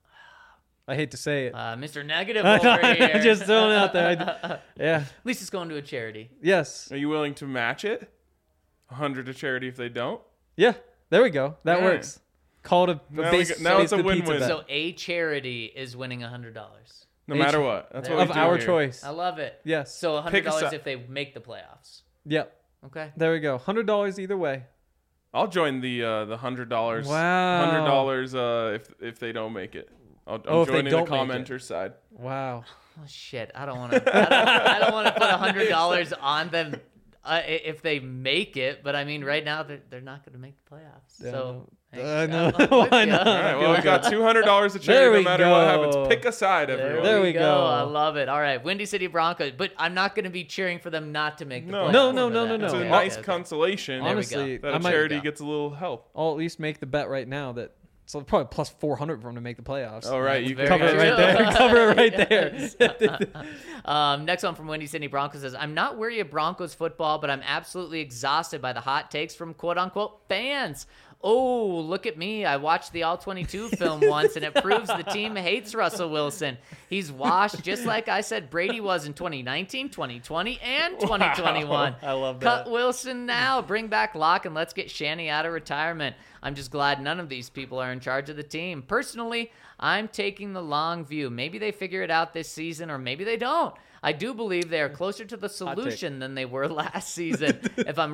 I hate to say it. Mr. Negative over here. Just throwing it out there. Yeah. At least it's going to a charity. Yes. Are you willing to match it? 100 to charity if they don't? Yeah, there we go. That All works. Call it now it's a win-win. So a charity is winning $100. No matter what. That's what of we do our here. choice. I love it. Yes. So $100 if they make the playoffs. Yep. Okay. There we go. $100 either way. I'll join the $100. Wow. $100 if they don't make it. I'm if they joining the don't make commenter side. Wow. Oh shit! I don't want to. I don't want to put $100 on them if they make it. But I mean, right now they're not going to make the playoffs. Yeah, So no. why not? All right, well, we got $200 to There charity we no matter what happens. go. Pick a side, everyone. There we go. I love it. All right, Windy City Broncos. But I'm not going to be cheering for them not to make the No. playoffs. No. for that. It's a Okay, nice okay. consolation. Honestly, that I a might- charity go. gets a little help. I'll at least make the bet right now that it's probably plus 400 for him to make the playoffs. All right, you Very can Cover it true. right there. Cover it right there. Next one from Windy City Broncos says, I'm not weary of Broncos football, but I'm absolutely exhausted by the hot takes from quote-unquote fans. Oh, look at me. I watched the All-22 film once, and it proves the team hates Russell Wilson. He's washed just like I said Brady was in 2019, 2020, and 2021. Wow. I love that. Cut Wilson now. Bring back Locke, and let's get Shanny out of retirement. I'm just glad none of these people are in charge of the team. Personally, I'm taking the long view. Maybe they figure it out this season, or maybe they don't. I do believe they are closer to the solution than they were last season. If I'm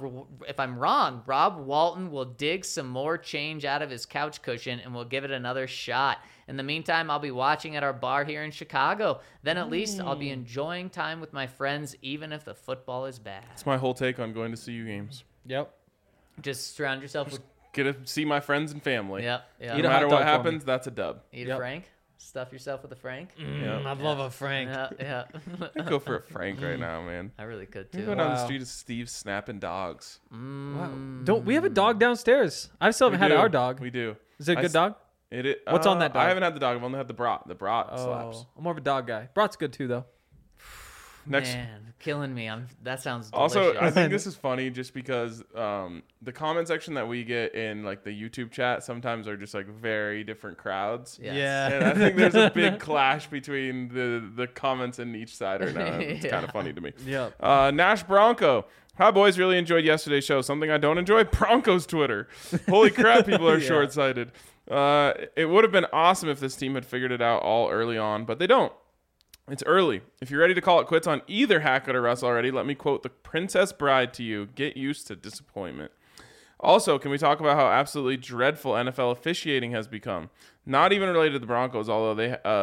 wrong, Rob Walton will dig some more change out of his couch cushion and will give it another shot. In the meantime, I'll be watching at our bar here in Chicago. Then at least I'll be enjoying time with my friends, even if the football is bad. That's my whole take on going to CU games. Yep. Just surround yourself with Get to see my friends and family. Yep. No Eat a matter hot what dog for happens, that's a dub. Eat Yep. a Frank. Stuff yourself with a Frank. I'd love a Frank. Yeah. I'd go for a Frank right now, man. I really could You too. go down the Wow. street of Steve snapping dogs. Wow. Don't we have a dog downstairs? I still haven't had We do. our dog. We do. Is it a I good s- dog? What's on that dog? I haven't had the dog. I've only had the brat. The brat slaps. I'm more of a dog guy. Brat's good too, though. Next. Man, killing me. That sounds delicious. Also, I think this is funny just because the comment section that we get in like the YouTube chat sometimes are just like very different crowds. Yes. Yeah. And I think there's a big clash between the comments in each side right now. It's kind of funny to me. Yep. Nash Bronco. Hi, boys. Really enjoyed yesterday's show. Something I don't enjoy, Broncos Twitter. Holy crap, people are short-sighted. It would have been awesome if this team had figured it out all early on, but they don't. It's early. If you're ready to call it quits on either Hackett or Russ already, let me quote the Princess Bride to you. Get used to disappointment. Also, can we talk about how absolutely dreadful NFL officiating has become? Not even related to the Broncos, although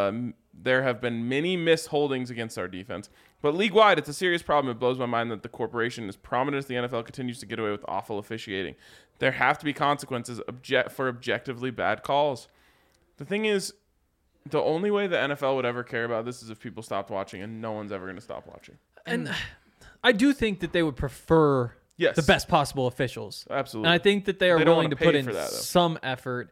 there have been many missed holdings against our defense. But league-wide, it's a serious problem. It blows my mind that the corporation, as prominent as the NFL, continues to get away with awful officiating. There have to be consequences for objectively bad calls. The thing is, the only way the NFL would ever care about this is if people stopped watching, and no one's ever going to stop watching. And I do think that they would prefer Yes. the best possible officials. Absolutely. And I think that they are They don't willing to wanna put pay in for that, though. some effort.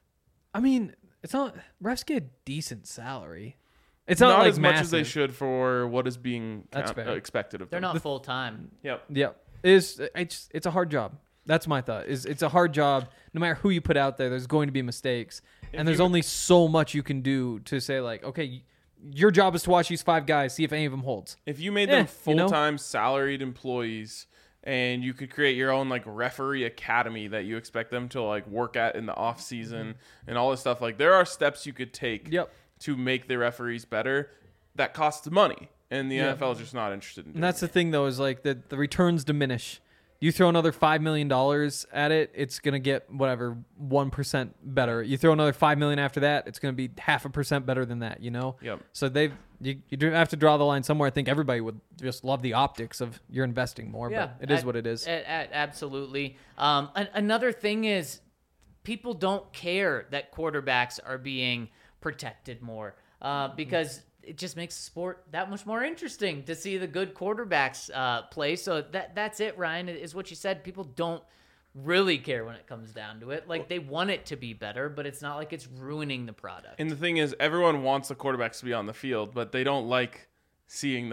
I mean, it's not refs get a decent salary. It's not, not like as much as they massive. should for what is being That's fair. expected of They're them. not full time. Yep. Yeah, it's a hard job. That's my thought. It's a hard job. No matter who you put out there, there's going to be mistakes, and there's only so much you can do to say like, okay, your job is to watch these 5 guys, see if any of them holds. If you made them you know? full-time salaried employees and you could create your own like referee academy that you expect them to like work at in the off season and all this stuff, like there are steps you could take Yep. to make the referees better. That costs money, and the NFL is just not interested in doing And that's it. the thing, though, is like the returns diminish. You throw another $5 million at it, it's gonna get whatever 1% better. You throw another $5 million after that, it's gonna be 0.5% better than that. You know. Yep. So you do have to draw the line somewhere. I think everybody would just love the optics of you're investing more, but it is what it is. Absolutely. Another thing is people don't care that quarterbacks are being protected more because it just makes the sport that much more interesting to see the good quarterbacks play. So that's it, Ryan, is what you said. People don't really care when it comes down to it. Like, they want it to be better, but it's not like it's ruining the product. And the thing is, everyone wants the quarterbacks to be on the field, but they don't like seeing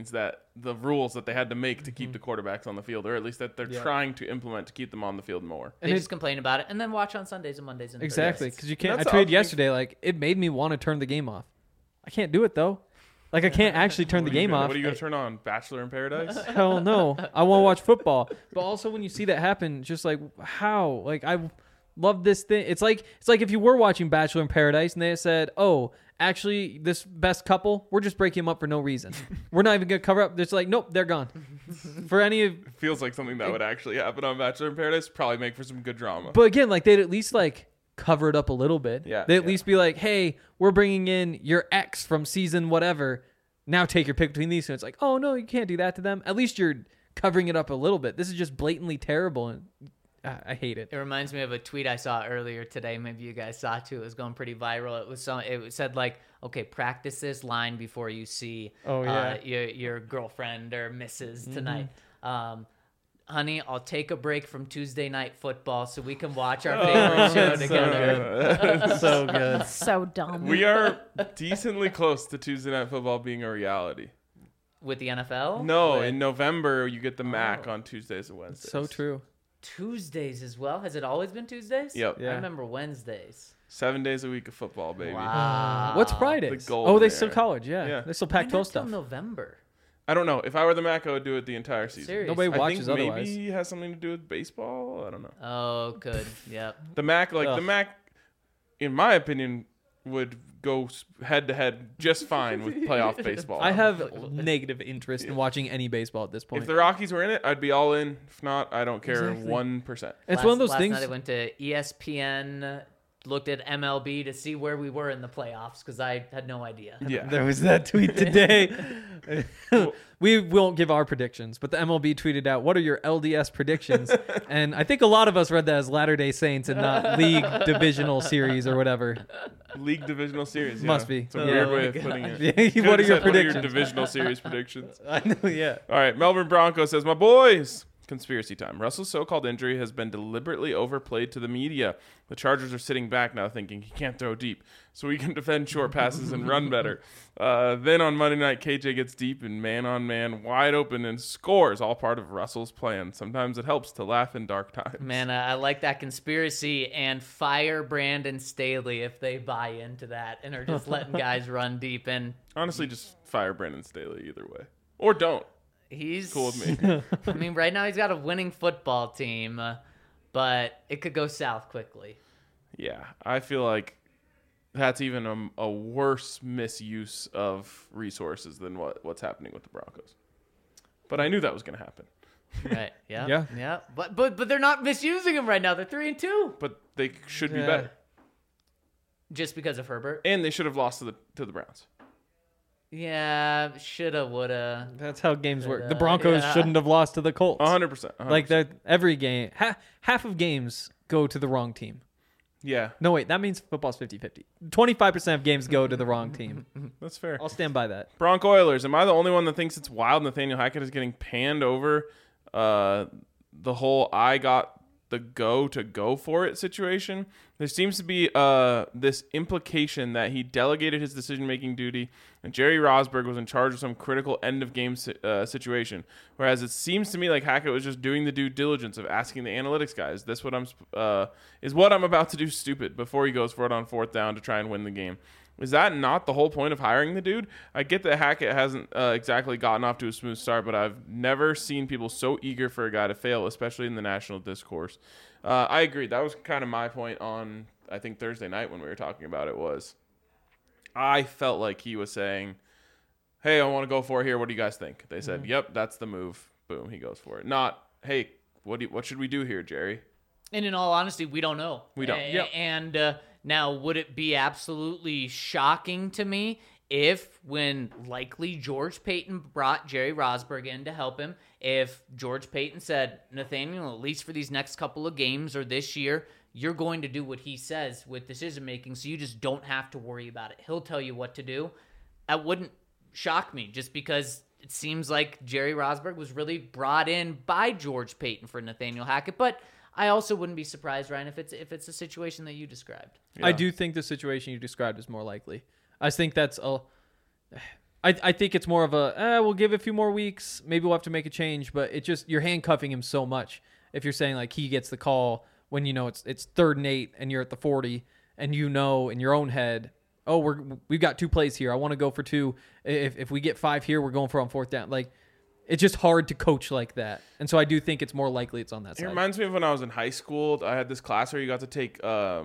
the rules that they had to make to keep the quarterbacks on the field, or at least that they're trying to implement to keep them on the field more. They just complain about it and then watch on Sundays and Mondays and Exactly, Thursdays. because you can't. I That's tweeted the yesterday, like, it made me want to turn the game off. I can't do it though. Like, I can't actually turn the game off. What are you going to turn on? Bachelor in Paradise? Hell no. I want to watch football. But also when you see that happen, just like, how? Like, I love this thing. It's like if you were watching Bachelor in Paradise and they said, oh, actually, this best couple, we're just breaking them up for no reason. We're not even going to cover up. It's like, nope, they're gone. For any of... Feels like something that would actually happen on Bachelor in Paradise. Probably make for some good drama. But again, like, they'd at least, like, cover it up a little bit. Yeah, They'd at least be like, hey, we're bringing in your ex from season whatever. Now take your pick between these two. It's like, oh, no, you can't do that to them. At least you're covering it up a little bit. This is just blatantly terrible, and I hate it. It reminds me of a tweet I saw earlier today. Maybe you guys saw it too. It was going pretty viral. It said like, okay, practice this line before you see your girlfriend or missus tonight. Honey, I'll take a break from Tuesday Night Football so we can watch our favorite show together. So good. So dumb. We are decently close to Tuesday Night Football being a reality. With the NFL? No, With in November, you get the MAC on Tuesdays and Wednesdays. So true. Tuesdays as well. Has it always been Tuesdays? Yep. Yeah. I remember Wednesdays. 7 days a week of football, baby. Wow. What's Fridays? The golden Oh, they still era. college. Yeah. Yeah. They still Why Pac-12 not till stuff. November? I don't know. If I were the MAC, I would do it the entire season. Seriously. Nobody I watches think otherwise. maybe it has something to do with baseball. I don't know. Oh, good. Yep. The MAC, the Ugh. MAC, in my opinion, would go head to head just fine with playoff baseball. I have negative interest in watching any baseball at this point. If the Rockies were in it, I'd be all in. If not, I don't care Exactly. 1%. It's one of those last things. night I went to ESPN, looked at MLB to see where we were in the playoffs because I had no idea. Yeah. There was that tweet today. We won't give our predictions, but the MLB tweeted out, "What are your LDS predictions?" And I think a lot of us read that as Latter-day Saints and not League Divisional Series or whatever. League Divisional Series. Yeah. Must be. It's a Yeah. weird Oh way my of putting it. Yeah, what are your predictions? Divisional Series predictions. I know, yeah. All right, Melbourne Broncos says, my boys, Conspiracy time. Russell's so-called injury has been deliberately overplayed to the media. The Chargers are sitting back now thinking he can't throw deep, so he can defend short passes and run better. Then on Monday night, KJ gets deep and man-on-man, wide open, and scores, all part of Russell's plan. Sometimes it helps to laugh in dark times. Man, I like that conspiracy, and fire Brandon Staley if they buy into that and are just letting guys run deep. And Honestly, just fire Brandon Staley either way. Or don't. he's Cool with me. I mean, right now he's got a winning football team, but it could go south quickly. Yeah, I feel like that's even a worse misuse of resources than what's happening with the Broncos. But I knew that was going to happen. Right? Yeah. Yeah. Yeah. But they're not misusing him right now. They're 3-2 But they should be Yeah. better. just because of Herbert. And they should have lost to the Browns. Yeah, shoulda, woulda. That's how games work. The Broncos yeah. shouldn't have lost to the Colts. 100%. Like that, every game, half of games go to the wrong team. Yeah, No, wait, that means football's 50-50. 25% of games go to the wrong team. that's fair. I'll stand by that. Bronco Oilers. Am I the only one that thinks it's wild Nathaniel Hackett is getting panned over the whole I got the go for it situation? There seems to be this implication that he delegated his decision-making duty and Jerry Rosburg was in charge of some critical end-of-game situation, whereas it seems to me like Hackett was just doing the due diligence of asking the analytics guys, "This is what I'm about to do stupid," before he goes for it on 4th down to try and win the game. Is that not the whole point of hiring the dude? I get that Hackett hasn't exactly gotten off to a smooth start, but I've never seen people so eager for a guy to fail, especially in the national discourse. I agree. That was kind of my point on, I think, Thursday night when we were talking about it was I felt like he was saying, "Hey, I want to go for it here. What do you guys think?" They said, "Yep, that's the move." Boom, he goes for it. Not, "Hey, what should we do here, Jerry?" And in all honesty, we don't know. We don't. Yep. And now, would it be absolutely shocking to me if, when likely George Payton brought Jerry Rosburg in to help him, if George Payton said, "Nathaniel, at least for these next couple of games or this year, you're going to do what he says with decision making, so you just don't have to worry about it. He'll tell you what to do." That wouldn't shock me, just because it seems like Jerry Rosburg was really brought in by George Payton for Nathaniel Hackett. But I also wouldn't be surprised, Ryan, if it's a situation that you described. Yeah. I do think the situation you described is more likely. I think that's I think it's more of a we'll give it a few more weeks, maybe we'll have to make a change, but it just, you're handcuffing him so much if you're saying like he gets the call when you know it's 3rd and 8 and you're at the 40 and you know in your own head, oh, we've got 2 plays here, I want to go for 2. If we get 5 here, we're going for on 4th down. Like, it's just hard to coach like that. And so I do think it's more likely it's on that It side. reminds me of when I was in high school. I had this class where you got to take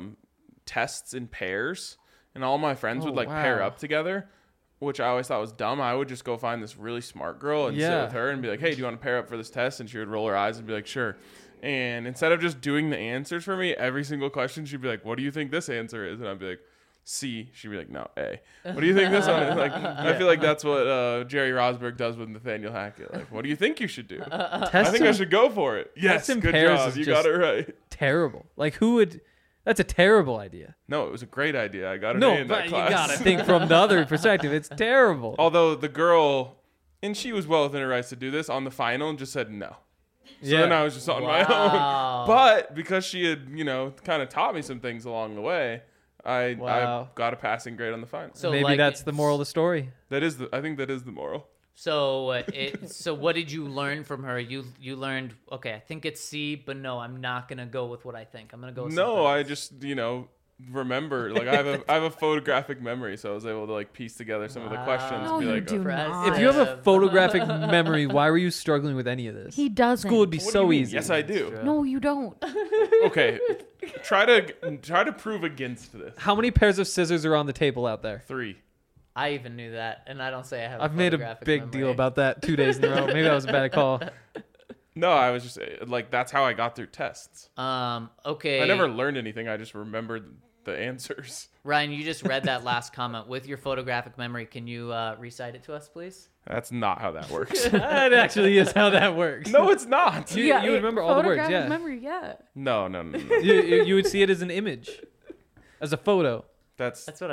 tests in pairs, and all my friends would pair wow. up together, which I always thought was dumb. I would just go find this really smart girl and sit Yeah. with her and be like, "Hey, do you want to pair up for this test?" And she would roll her eyes and be like, "Sure." And instead of just doing the answers for me, every single question, she'd be like, "What do you think this answer is?" And I'd be like, C. She'd be like, "No, A." "What do you think this one is?" Like, I feel like that's what Jerry Rosburg does with Nathaniel Hackett. Like, "What do you think you should do?" "I think I should go for it." "Yes, Test in good pairs job. is You got just- it right. Terrible. Like, who would? That's a terrible idea. No, it was a great idea. I got an A No, in that but you class. gotta think from the other perspective. It's terrible. Although the girl, and she was well within her rights to do this on the final, and just said no. So Yeah. then I was just on my Wow. own. But because she had, kind of taught me some things along the way, I Wow. got a passing grade on the final. So Maybe like, that's the moral of the story. I think that is the moral. So so what did you learn from her? You learned, okay, I think it's C, but no, I'm not gonna go with what I think. I'm gonna go with No, something I else. just, remember, like I have a photographic memory, so I was able to like piece together some of the questions. No, and be you like, do Impressive. not. If you have a photographic memory, why were you struggling with any of this? He doesn't. School would be "What do so you mean?" easy. Yes, I do. No, you don't. Okay, try to prove against this. How many pairs of scissors are on the table out there? 3. I even knew that, and I don't say I have. I've made a photographic big memory. deal about that 2 days in a row. Maybe that was a bad call. No, I was just like, that's how I got through tests. Okay. I never learned anything. I just remembered the answers. Ryan, you just read that last comment with your photographic memory. Can you recite it to us, please? That's not how that works. That actually is how that works. No, it's not. You would remember all the words, photographic yeah. memory, yeah. No. You would see it as an image, as a photo. That's That's what I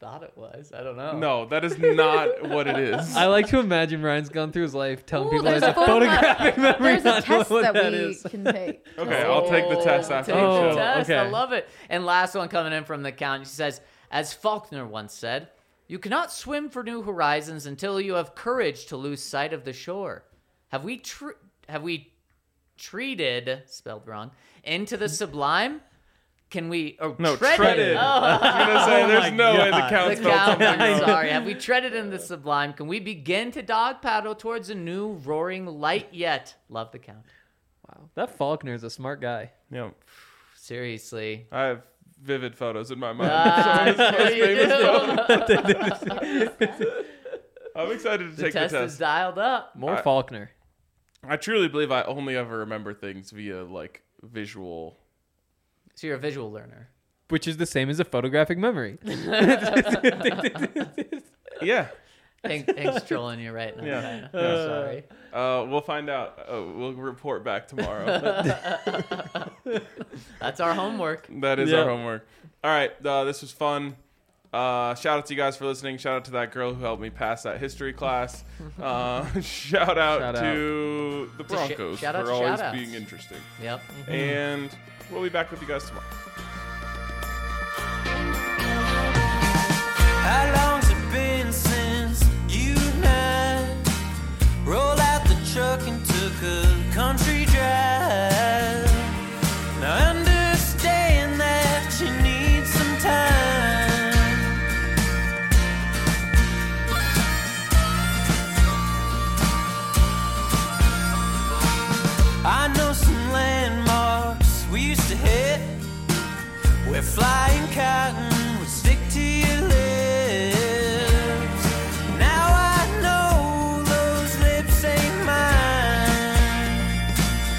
thought it was. I don't know. No, that is not what it is. I like to imagine Ryan's gone through his life telling Ooh, people there's there's a a photographic memory. There's a not test what that we is. can take. Okay, I'll take the test after Take the the show. test. I okay. love it. And last one coming in from the count. She says, as Faulkner once said, you cannot swim for new horizons until you have courage to lose sight of the shore. Have we treated, spelled wrong, into the sublime? Can we, or No, treaded? treaded. Oh. I was gonna say, there's no way the God. count The spelled count, something I'm wrong. sorry. Have we treaded in the sublime? Can we begin to dog paddle towards a new roaring light yet? Love the count. Wow, that Faulkner is a smart guy. Yeah, Seriously. I have vivid photos in my mind. There you do. I'm excited to The take the test is test. dialed up. More I- Faulkner. I truly believe I only ever remember things via like visual. So you're a visual learner. Which is the same as a photographic memory. Yeah, Hank's trolling you right now. Yeah. I'm sorry. we'll find out. We'll report back tomorrow. That's our homework. That is Yeah. our homework. All right, this was fun. Shout out to you guys for listening. Shout out to that girl who helped me pass that history class. Shout out to the Broncos shout out for to always shout-outs. being interesting. Yep. And we'll be back with you guys tomorrow. How long's it been since you and I rolled out the truck and took a country drive? Now I understand that you need some time. I know some landmarks we used to hit where flying cotton would stick to your lips. Now I know those lips ain't mine.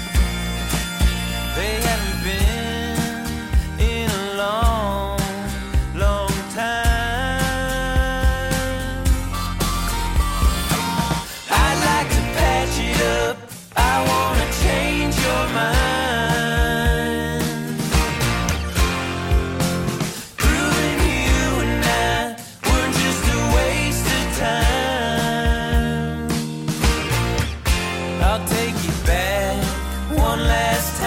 They haven't been in a long, long time. I'd like to patch it up. I wanna change your mind. Proving you and I were just a waste of time. I'll take you back one last time.